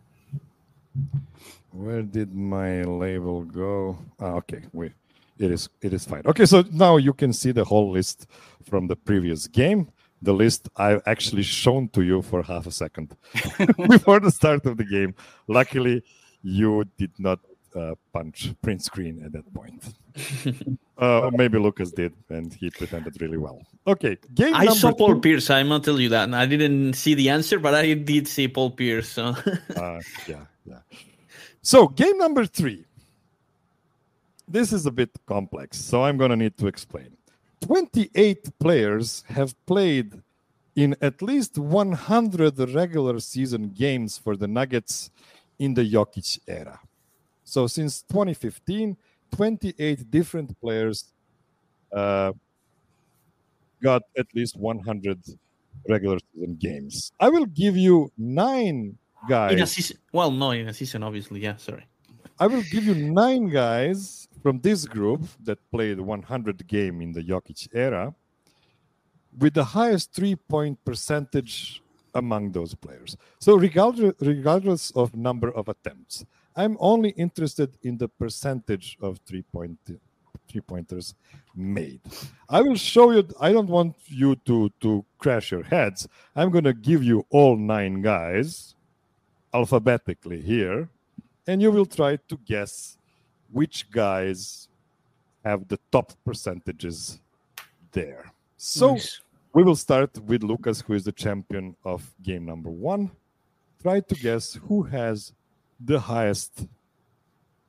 Where did my label go? Okay, it is fine. Okay, so now you can see the whole list from the previous game. The list I've actually shown to you for half a second before the start of the game. Luckily, you did not punch print screen at that point. Or maybe Lucas did, and he pretended really well. Okay, game I number saw Paul 2. Pierce. I must tell you that. I didn't see the answer, but I did see Paul Pierce. So. Yeah. So, game number 3. This is a bit complex, so I'm going to need to explain. 28 players have played in at least 100 regular season games for the Nuggets in the Jokic era. So, since 2015, 28 different players got at least 100 regular season games. I will give you 9 guys. In a season, well, no, in a season, obviously. Yeah, sorry. I will give you 9 guys from this group that played 100 game in the Jokic era with the highest 3-point percentage among those players. So regardless of number of attempts, I'm only interested in the percentage of three-pointers made. I will show you. I don't want you to crash your heads. I'm going to give you all 9 guys alphabetically here, and you will try to guess which guys have the top percentages there. So Nice. we will start with Lucas, who is the champion of game number 1. Try to guess who has the highest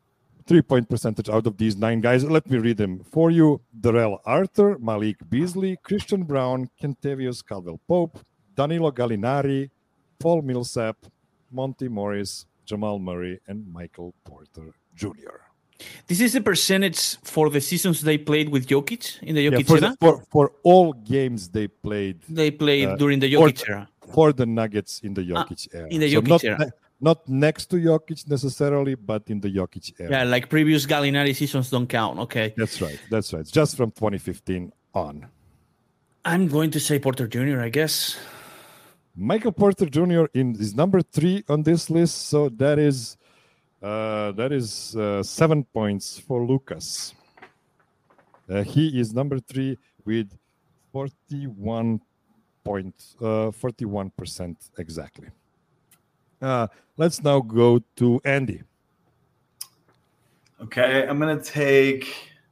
3-point percentage out of these 9 guys. Let me read them for you. Darrell Arthur, Malik Beasley, Christian Brown, Kentavious Caldwell-Pope, Danilo Gallinari, Paul Millsap, Monty Morris, Jamal Murray, and Michael Porter Jr. This is the percentage for the seasons they played with Jokic in the Jokic era? For all games they played. They played during the Jokic era. For the Nuggets in the Jokic era. In the Jokic era. Not next to Jokic necessarily, but in the Jokic era. Yeah, like previous Gallinari seasons don't count. Okay. That's right. Just from 2015 on. I'm going to say Porter Jr., I guess. Michael Porter Jr. is number 3 on this list, so that is 7 points for Lucas. He is number 3 with 41% exactly. Let's now go to Andy. Okay, I'm gonna take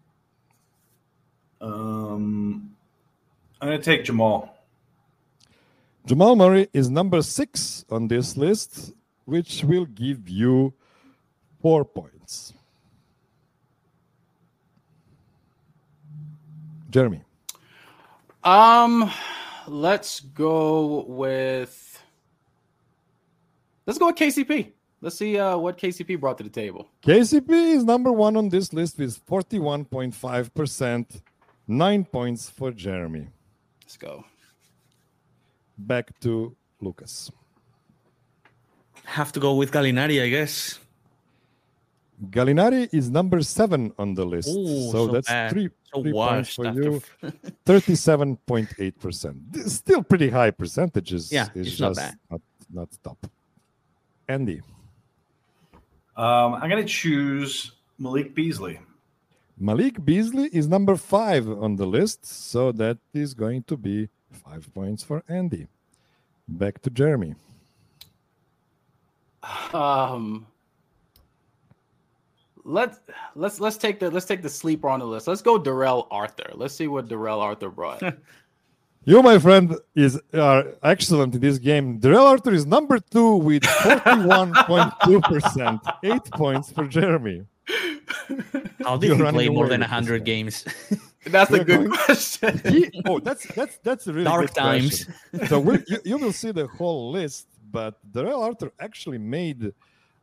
Jamal. Jamal Murray is number 6 on this list, which will give you 4 points. Jeremy. Let's go with KCP. Let's see what KCP brought to the table. KCP is number 1 on this list with 41.5%, 9 points for Jeremy. Let's go. Back to Lucas. Have to go with Gallinari, I guess. Gallinari is number 7 on the list. Ooh, so that's bad. 3 points for after... you. 37.8%. Still pretty high percentages. Yeah, it's not bad. Not top. Andy. I'm going to choose Malik Beasley. Malik Beasley is number 5 on the list. So that is going to be 5 points for Andy. Back to Jeremy. Let's take the sleeper on the list. Let's go Darrell Arthur. Let's see what Darrell Arthur brought. You, my friend, are excellent in this game. Darrell Arthur is number 2 with 41.2%. 8 points for Jeremy. How did he play more than 100 games? That's a good question. That's a really dark good times. question. So you will see the whole list, but Darrell Arthur actually made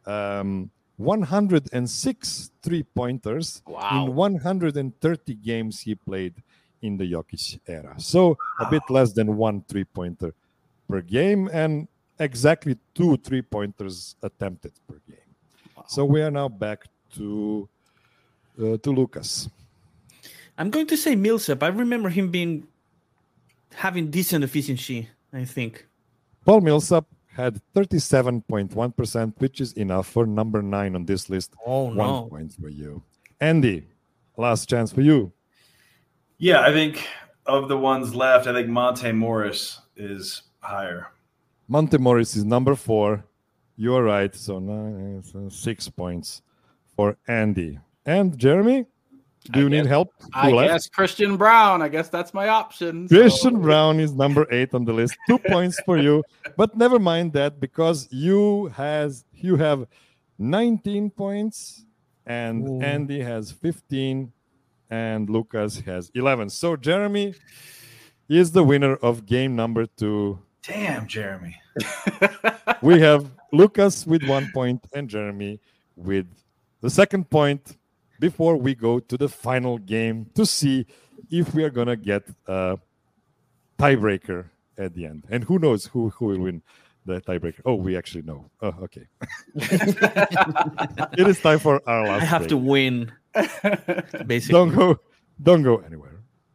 106 3-pointers in 130 games he played in the Jokic era. So a bit less than 1 3-pointer per game and exactly 2 3-pointers attempted per game. Wow. So we are now back to Lucas. I'm going to say Millsap. I remember him having decent efficiency, I think. Paul Millsap had 37.1%, which is enough for number 9 on this list. Oh, no. 1 point for you. Andy, last chance for you. Yeah, I think of the ones left, I think Monte Morris is higher. Monte Morris is number 4. You're right. So 6 points for Andy. And Jeremy, do you need help? I guess Christian Brown. I guess that's my option. Christian Brown is number 8 on the list. 2 points for you. But never mind that, because you have 19 points and Andy has 15 and Lucas has 11. So Jeremy is the winner of game number 2. Damn, Jeremy. We have Lucas with 1 point and Jeremy with the second point before we go to the final game to see if we are going to get a tiebreaker at the end. And who knows who will win the tiebreaker. Oh, we actually know. Oh, okay. It is time for our last I have break. to win. Basically. Don't go anywhere.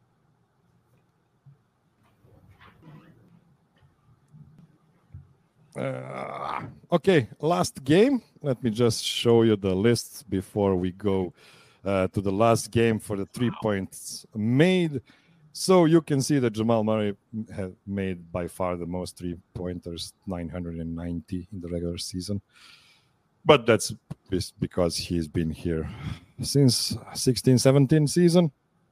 Okay, last game. Let me just show you the lists before we go to the last game for the 3 points made. So you can see that Jamal Murray had made by far the most 3-pointers, 990 in the regular season. But that's because he's been here since 16-17 season.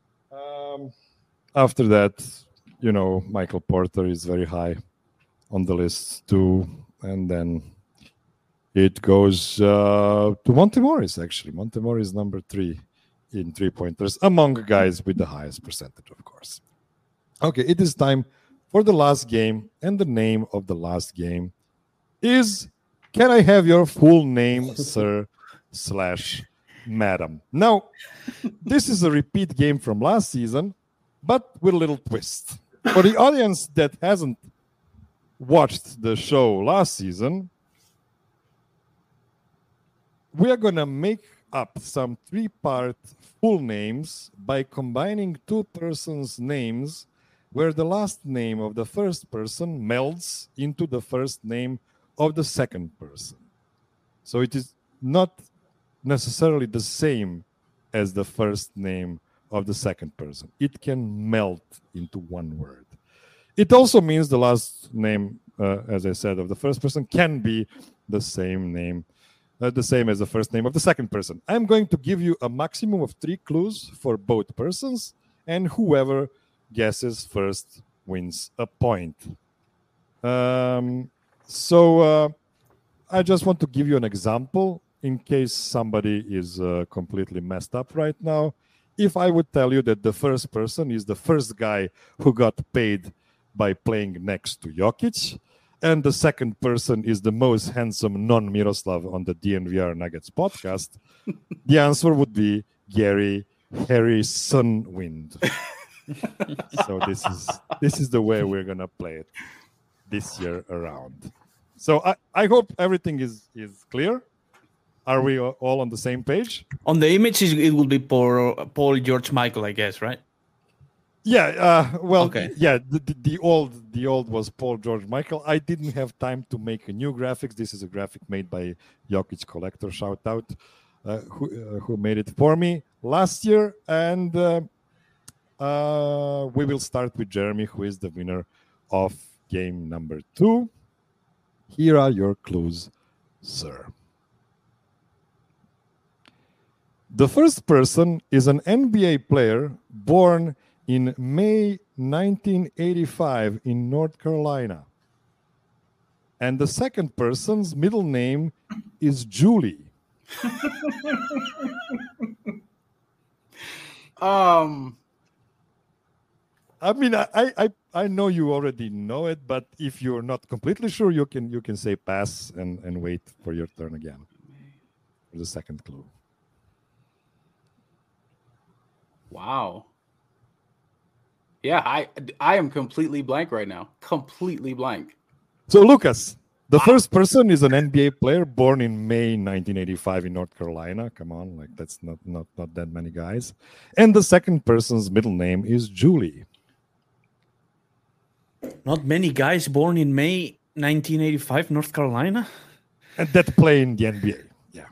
After that, Michael Porter is very high on the list too. And then It goes to Monte Morris, actually. Monte Morris number 3 in three-pointers, among guys with the highest percentage, of course. Okay, it is time for the last game, and the name of the last game is, can I have your full name, sir / madam? Now, this is a repeat game from last season, but with a little twist. For the audience that hasn't watched the show last season, we are going to make up some 3-part full names by combining 2 persons' names where the last name of the first person melds into the first name of the second person. So it is not necessarily the same as the first name of the second person. It can melt into one word. It also means the last name, as I said, of the first person can be the same name, the same as the first name of the second person. I'm going to give you a maximum of 3 clues for both persons, and whoever guesses first wins a point. So I just want to give you an example in case somebody is completely messed up right now. If I would tell you that the first person is the first guy who got paid by playing next to Jokic, and the second person is the most handsome non-Miroslav on the DNVR Nuggets podcast, the answer would be Gary Harrison Wind. So this is the way we're gonna play it this year around. So I hope everything is clear. Are we all on the same page? On the image, it will be Paul George Michael, I guess, right? Yeah. Well, okay. Yeah. The old was Paul George Michael. I didn't have time to make a new graphics. This is a graphic made by Jokic Collector. Shout out who made it for me last year. And we will start with Jeremy, who is the winner of game number 2. Here are your clues, sir. The first person is an NBA player born in May 1985 in North Carolina. And the second person's middle name is Julie. I mean, I know you already know it, but if you're not completely sure, you can say pass and wait for your turn again for the second clue. Wow. Yeah, I am completely blank right now. Completely blank. So, Lucas, the first person is an NBA player born in May 1985 in North Carolina. Come on, like that's not that many guys. And the second person's middle name is Julie. Not many guys born in May 1985, North Carolina. And that play in the NBA. Yeah.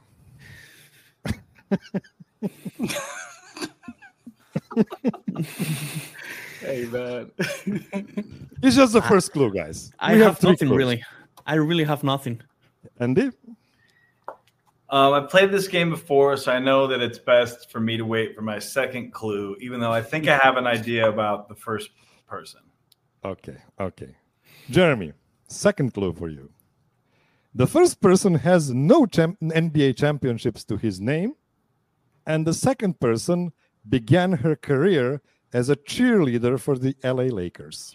Hey, man. It's just the first clue, guys. I have nothing clues. Really. I really have nothing. Andy? I've played this game before, so I know that it's best for me to wait for my second clue, even though I think I have an idea about the first person. Okay. Jeremy, second clue for you. The first person has no NBA championships to his name, and the second person began her career as a cheerleader for the LA Lakers.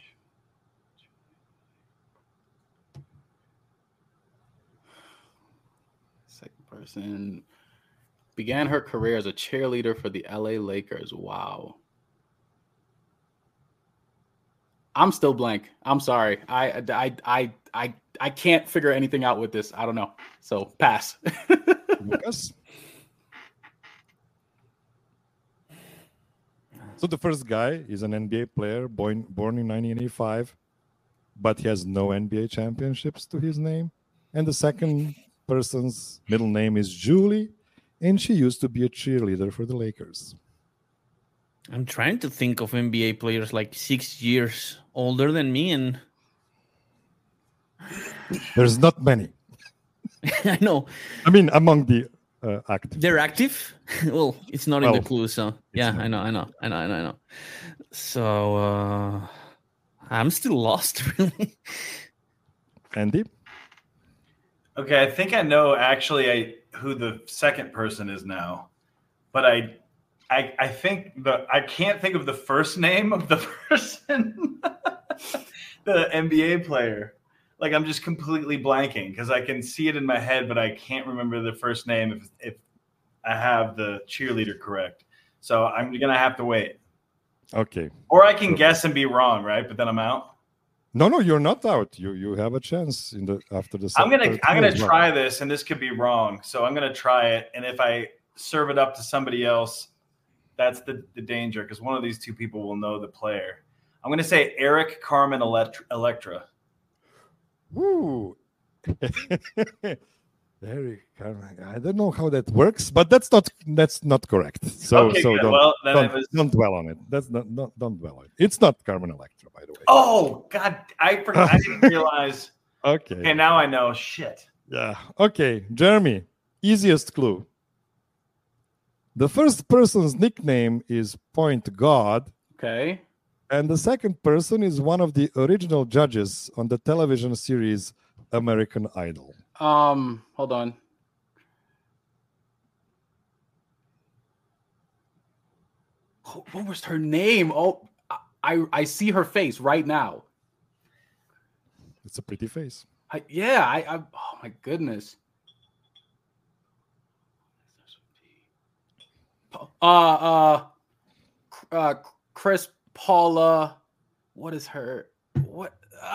Second person began her career as a cheerleader for the LA Lakers. Wow. I'm still blank. I'm sorry. I can't figure anything out with this. I don't know. So pass. Lucas? So the first guy is an NBA player born in 1985, but he has no NBA championships to his name. And the second person's middle name is Julie, and she used to be a cheerleader for the Lakers. I'm trying to think of NBA players like 6 years older than me, and there's not many. I know. I mean, among the active. They're active? Well, it's not in the clue, so yeah, I know. So I'm still lost, really. Andy? Okay, I think I know actually who the second person is now, but I think I can't think of the first name of the person, the NBA player. Like I'm just completely blanking because I can see it in my head, but I can't remember the first name if I have the cheerleader correct. So I'm gonna have to wait. Okay. Or I can guess and be wrong, right? But then I'm out. No, you're not out. You have a chance after the. I'm gonna try this, and this could be wrong. So I'm gonna try it, and if I serve it up to somebody else, that's the danger because one of these two people will know the player. I'm gonna say Eric Carmen Electra. Woo. Eric Carmen. I don't know how that works, but that's not correct. So okay, so good. don't, well, then don't dwell on it. That's don't dwell on it. It's not Carmen Electra, by the way. Oh God, I forgot. I didn't realize. Okay, now I know. Shit. Yeah. Okay, Jeremy. Easiest clue. The first person's nickname is Point God. Okay. And the second person is one of the original judges on the television series American Idol. Hold on. What was her name? Oh, I see her face right now. It's a pretty face. Oh my goodness. Chris Paula. What is her? What?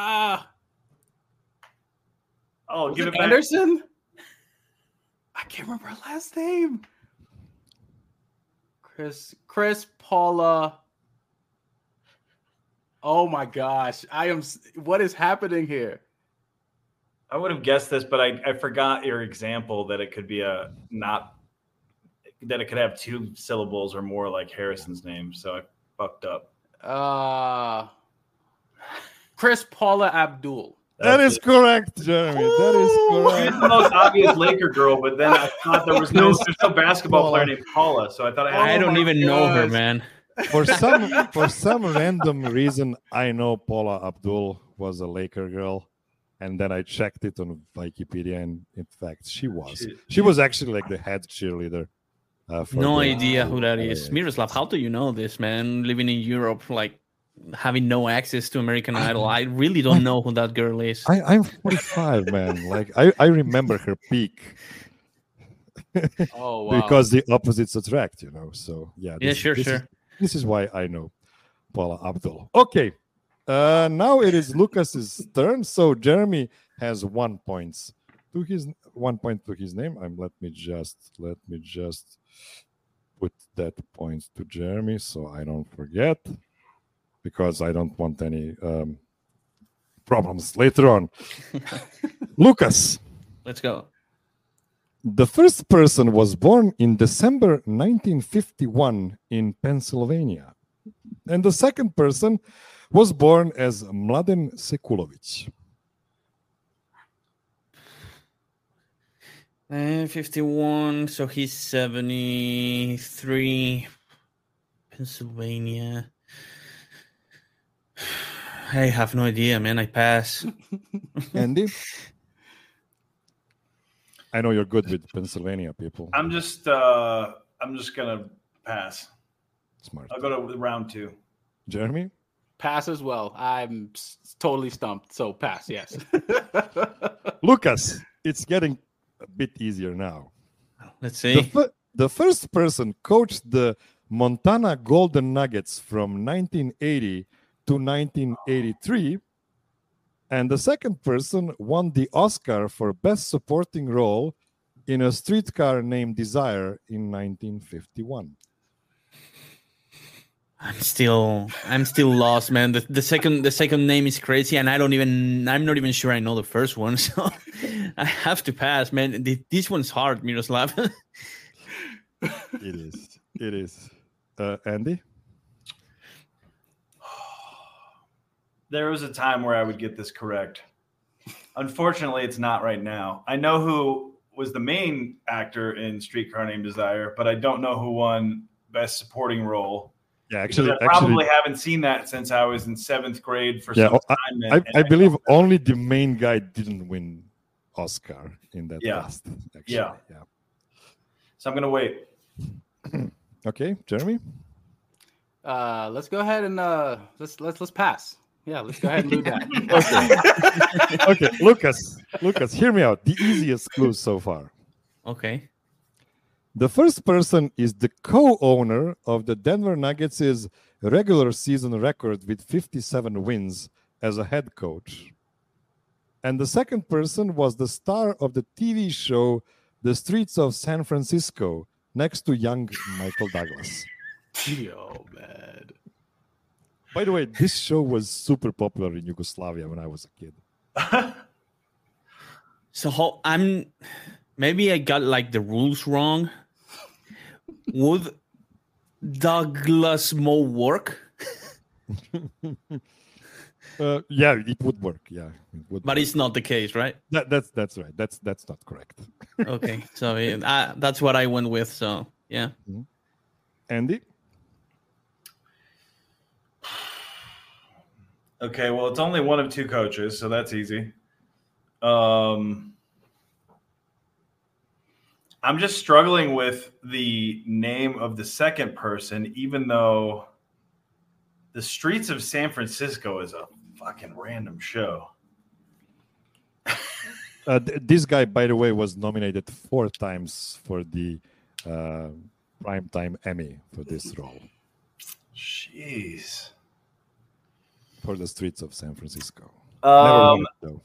Oh, give it back. Anderson? I can't remember her last name. Chris Paula. Oh my gosh. What is happening here? I would have guessed this, but I forgot your example that it could be that it could have two syllables or more like Harrison's name. So I fucked up. Chris Paula Abdul. That is correct, Jeremy. That is correct. She's the most obvious Laker girl, but then I thought there's no basketball player named Paula, so I thought I don't even know her, man. For some random reason, I know Paula Abdul was a Laker girl, and then I checked it on Wikipedia, and in fact, she was. She was actually like the head cheerleader. No idea who that is. Miroslav, how do you know this, man? Living in Europe, like having no access to American Idol. I really don't know who that girl is. I'm 45, man. Like I remember her peak. Oh, wow. Because the opposites attract, So yeah. Sure. This is why I know Paula Abdul. Okay. Now it is Lucas's turn. So Jeremy has 1 point to his 1 point to his name. Let me just put that point to Jeremy so I don't forget, because I don't want any problems later on. Lucas. Let's go. The first person was born in December 1951 in Pennsylvania. And the second person was born as Mladen Sekulovic. 51, so he's 73. Pennsylvania. I have no idea, man. I pass. Andy? I know you're good with Pennsylvania people. I'm just gonna pass. Smart. I'll go to round 2. Jeremy? Pass as well. I'm totally stumped. So pass, yes. Lucas, it's getting a bit easier now. Let's see. The first person coached the Montana Golden Nuggets from 1980 to 1983. And the second person won the Oscar for Best Supporting Role in A Streetcar Named Desire in 1951. I'm still lost, man. The second name is crazy, and I'm not even sure I know the first one, so I have to pass, man. This one's hard, Miroslav. It is. Andy? There was a time where I would get this correct. Unfortunately, it's not right now. I know who was the main actor in Streetcar Named Desire, but I don't know who won Best Supporting Role. Yeah, actually, I probably haven't seen that since I was in 7th grade for some time. I believe only the main guy didn't win Oscar in that Yeah. cast. Actually. Yeah. So I'm gonna wait. Okay, Jeremy. Let's go ahead and let's pass. Yeah, let's go ahead and do that. Okay, Lucas, hear me out. The easiest clue so far. Okay. The first person is the co-owner of the Denver Nuggets' regular season record with 57 wins as a head coach. And the second person was the star of the TV show The Streets of San Francisco, next to young Michael Douglas. Yo, man. By the way, this show was super popular in Yugoslavia when I was a kid. So maybe I got like the rules wrong. Would Douglas Moe work? Yeah, it would work. Yeah, it would. But work. it's not the case, right? That's right. That's not correct. Okay, so that's what I went with. So yeah. Andy. Okay, well, it's only one of two coaches, so that's easy. I'm just struggling with the name of the second person, even though The Streets of San Francisco is a fucking random show. This guy, by the way, was nominated 4 times for the Primetime Emmy for this role. Jeez. For The Streets of San Francisco. Um, Never won it, though.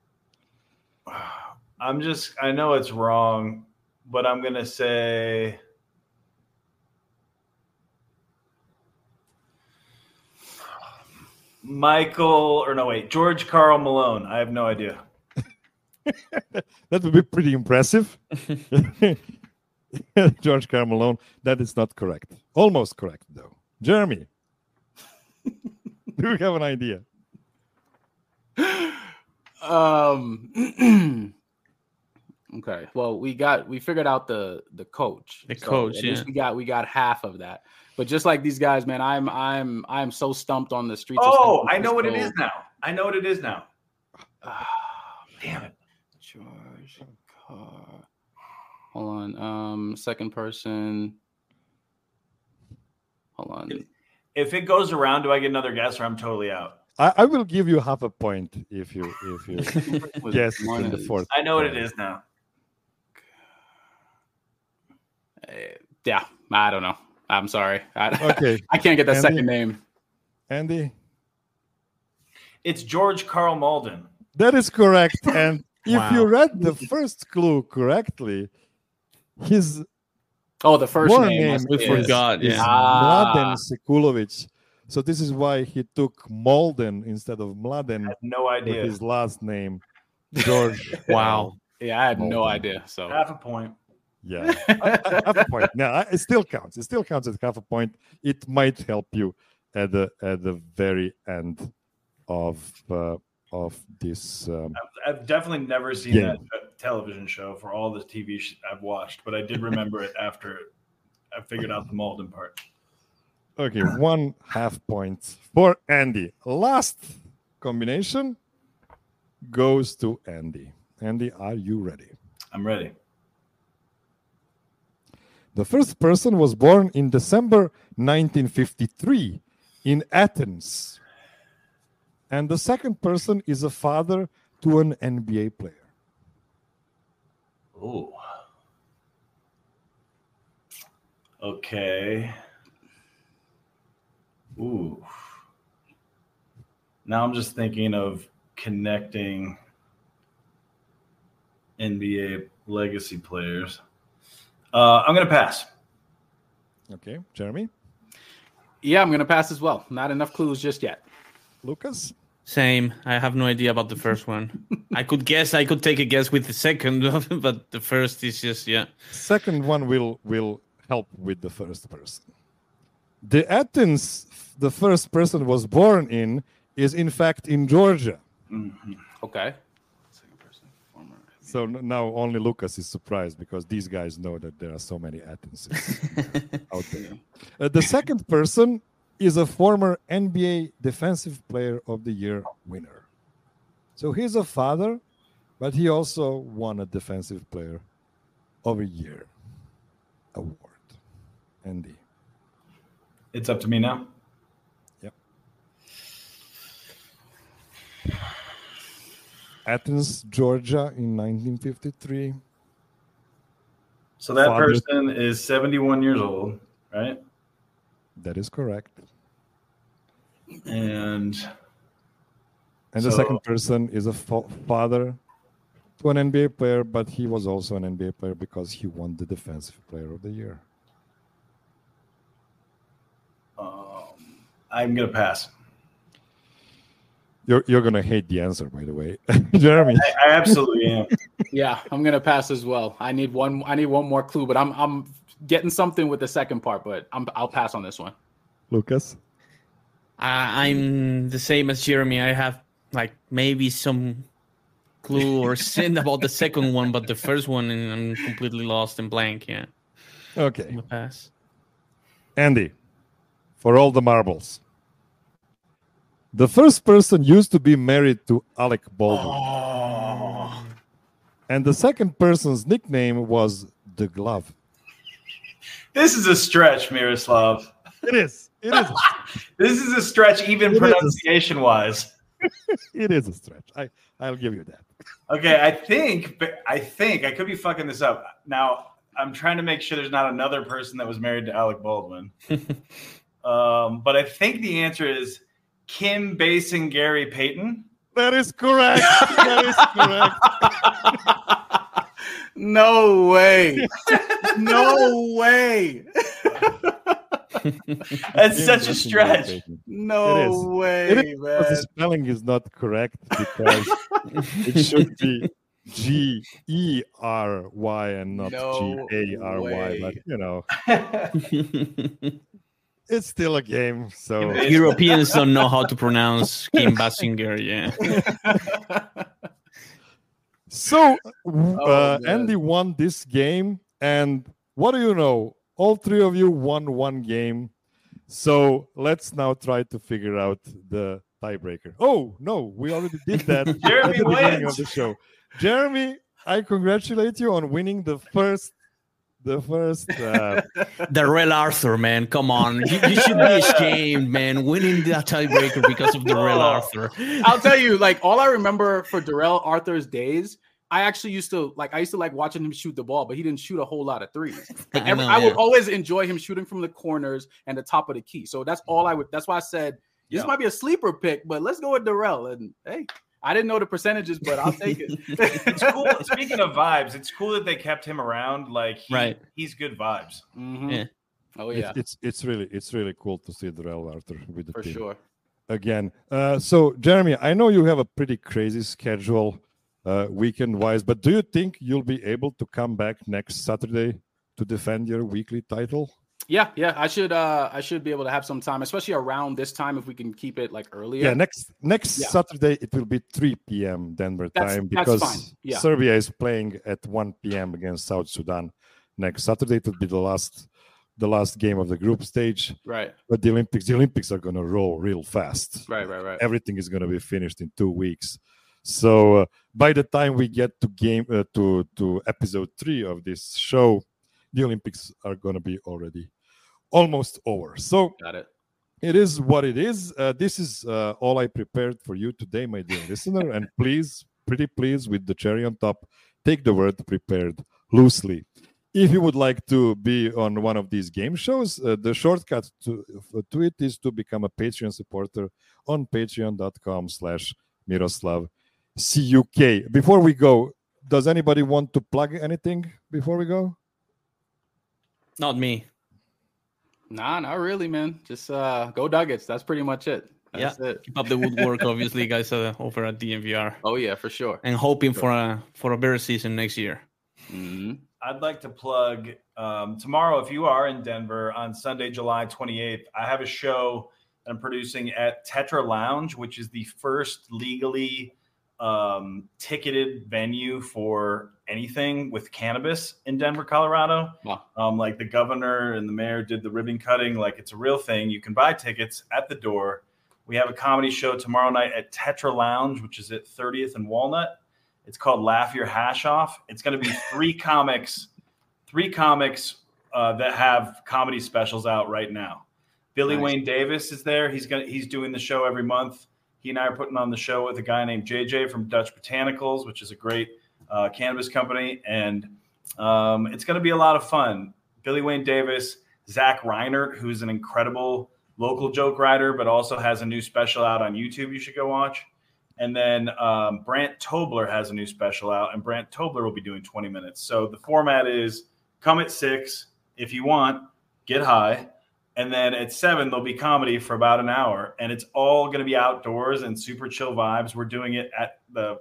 I know it's wrong, but I'm going to say George Karl Malone. I have no idea. That would be pretty impressive. George Karl Malone. That is not correct. Almost correct, though. Jeremy. Do you have an idea? Okay. Well, we figured out the coach. The coach, at least we got half of that. But just like these guys, man, I'm so stumped on the streets. Oh, I know what it is now. Damn it. George Carr. Hold on. Second person. Hold on. If it goes around, do I get another guess, or I'm totally out? I will give you half a point if you guess One in the is- fourth. I know what it is now. Yeah, I don't know. I'm sorry. Okay. I can't get that Andy? second name. Andy? It's George Karl Malden. That is correct. And if Wow. you read the first clue correctly, his Oh, the first born name. name is- We forgot, is yeah. Mladen Sekulovic. So this is why he took Malden instead of Mladen I have no with idea. his last name, George. Wow. Yeah, I had no Malden. idea. So Half a point. Yeah, half a point. Now it still counts. It still counts as half a point. It might help you at the very end of this. I've definitely never seen Yeah. that television show for all the TV I've watched, but I did remember it after I figured out the Malden part. Okay, 1/2 point for Andy. Last combination goes to Andy. Andy, are you ready? I'm ready. The first person was born in December 1953 in Athens. And the second person is a father to an NBA player. Oh. Okay. Ooh. Now I'm just thinking of connecting NBA legacy players. I'm going to pass. Okay, Jeremy, yeah, I'm gonna pass as well. Not enough clues just yet. Lucas. Same. I have no idea about the first one. I could take a guess with the second, but the first is just Second one will help with the first person. The Athens the first person was born in is in fact in Georgia. Mm-hmm. Okay. Second person, former. So now only Lucas is surprised because these guys know that there are so many Athenses out there. The second person is a former NBA Defensive Player of the Year winner. So he's a father but he also won a Defensive Player of the Year award. Andy. It's up to me now. Yep. Athens, Georgia in 1953. So that Father- person is 71 years old, right? That is correct. And And the So- second person is a father to an NBA player, but he was also an NBA player because he won the Defensive Player of the Year. I'm going to pass. You're gonna hate the answer, by the way, Jeremy. I absolutely am. Yeah, I'm gonna pass as well. I need one more clue, but I'm getting something with the second part, but I'll pass on this one. Lucas. I'm the same as Jeremy. I have like maybe some clue or sin about the second one, but the first one I'm completely lost and blank. Yeah, I'm Okay, gonna pass. Andy. For all the marbles. The first person used to be married to Alec Baldwin. And the second person's nickname was The Glove. This is a stretch, Miroslav. It is. It is. This is a stretch, even It is. pronunciation-wise. It is a stretch. I'll give you that. Okay, I think I could be fucking this up. Now, I'm trying to make sure there's not another person that was married to Alec Baldwin. But I think the answer is Kim Basinger Payton. That is correct. That is correct. No way. No way. That's such a stretch. It No is. way, is because man. the spelling is not correct because it should be Gery and not No Gary. way. But you know, it's still a game. So Europeans don't know how to pronounce Kim Basinger. Yeah. So man. Andy won this game, and what do you know? All three of you won one game. So let's now try to figure out the tiebreaker. Oh no, we already did that Jeremy at the beginning wins. of the show. Jeremy, I congratulate you on winning the first. Darrell Arthur, man, come on. You should be ashamed, man, winning that tiebreaker because of Darrell Arthur. I'll tell you, like, all I remember for Darrell Arthur's days, I actually used to like watching him shoot the ball, but he didn't shoot a whole lot of threes. Like, I would always enjoy him shooting from the corners and the top of the key. So that's all I would. That's why I said this might be a sleeper pick, but let's go with Darrell. And hey, I didn't know the percentages, but I'll take it. It's cool. Speaking of vibes, it's cool that they kept him around. Like, he's good vibes. Mhm. Yeah. Oh yeah, It's really cool to see Darrell Arthur with the for team sure. again. So Jeremy, I know you have a pretty crazy schedule weekend wise, but do you think you'll be able to come back next Saturday to defend your weekly title? Yeah. I should be able to have some time, especially around this time if we can keep it like earlier. Yeah, next Saturday it will be 3 p.m. Denver time that's because fine. Yeah. Serbia is playing at 1 p.m. against South Sudan next Saturday. It will be the last game of the group stage. Right. But the Olympics are going to roll real fast. Right. Everything is going to be finished in 2 weeks. So by the time we get to episode 3 of this show, the Olympics are going to be already almost over. So Got it. it is what it is. This is all I prepared for you today, my dear listener. And pretty please, with the cherry on top, take the word prepared loosely. If you would like to be on one of these game shows, the shortcut to it is to become a Patreon supporter on patreon.com/MiroslavCuk. Before we go, does anybody want to plug anything before we go? Not me. Nah, not really, man. Just go Nuggets. That's pretty much it. That's it. Keep up the woodwork, obviously, guys, over at DNVR. Oh yeah, for sure. And hoping for a better season next year. Mm-hmm. I'd like to plug tomorrow, if you are in Denver, on Sunday, July 28th, I have a show that I'm producing at Tetra Lounge, which is the first legally ticketed venue for anything with cannabis in Denver, Colorado. Wow. Like the governor and the mayor did the ribbon cutting. Like, it's a real thing. You can buy tickets at the door. We have a comedy show tomorrow night at Tetra Lounge, which is at 30th and Walnut. It's called Laugh Your Hash Off. It's going to be three comics that have comedy specials out right now. Billy Wayne Davis is there. He's doing the show every month. He and I are putting on the show with a guy named JJ from Dutch Botanicals, which is a great cannabis company. And it's going to be a lot of fun. Billy Wayne Davis, Zach Reinert, who's an incredible local joke writer, but also has a new special out on YouTube you should go watch. And then Brant Tobler has a new special out, and Brant Tobler will be doing 20 minutes. So the format is come at 6 if you want, get high. And then at 7, there'll be comedy for about an hour. And it's all going to be outdoors and super chill vibes. We're doing it at the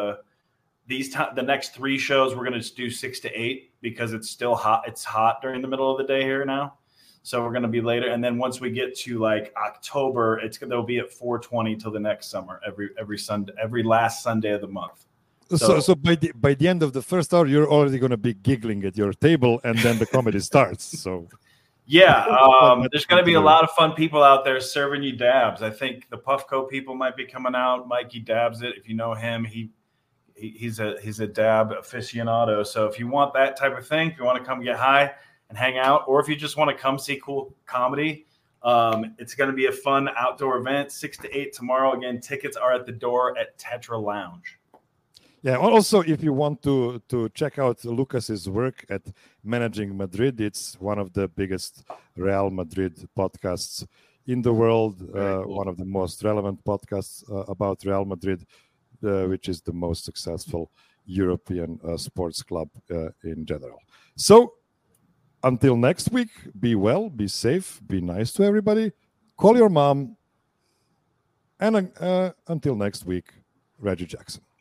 next 3 shows. We're going to do 6 to 8 because it's still hot. It's hot during the middle of the day here now. So we're going to be later. And then once we get to like October, they'll be at 4:20 till the next summer, every Sunday, every last Sunday of the month. So by the end of the first hour, you're already going to be giggling at your table, and then the comedy starts. So yeah, there's going to be a lot of fun people out there serving you dabs. I think the Puffco people might be coming out. Mikey dabs it. If you know him, he's a dab aficionado. So if you want that type of thing, if you want to come get high and hang out, or if you just want to come see cool comedy, it's going to be a fun outdoor event. 6 to 8 tomorrow. Again, tickets are at the door at Tetra Lounge. Yeah. Also, if you want to check out Lucas's work at Managing Madrid, it's one of the biggest Real Madrid podcasts in the world. Cool. One of the most relevant podcasts about Real Madrid, which is the most successful European sports club in general. So until next week, be well, be safe, be nice to everybody. Call your mom. And until next week, Reggie Jackson.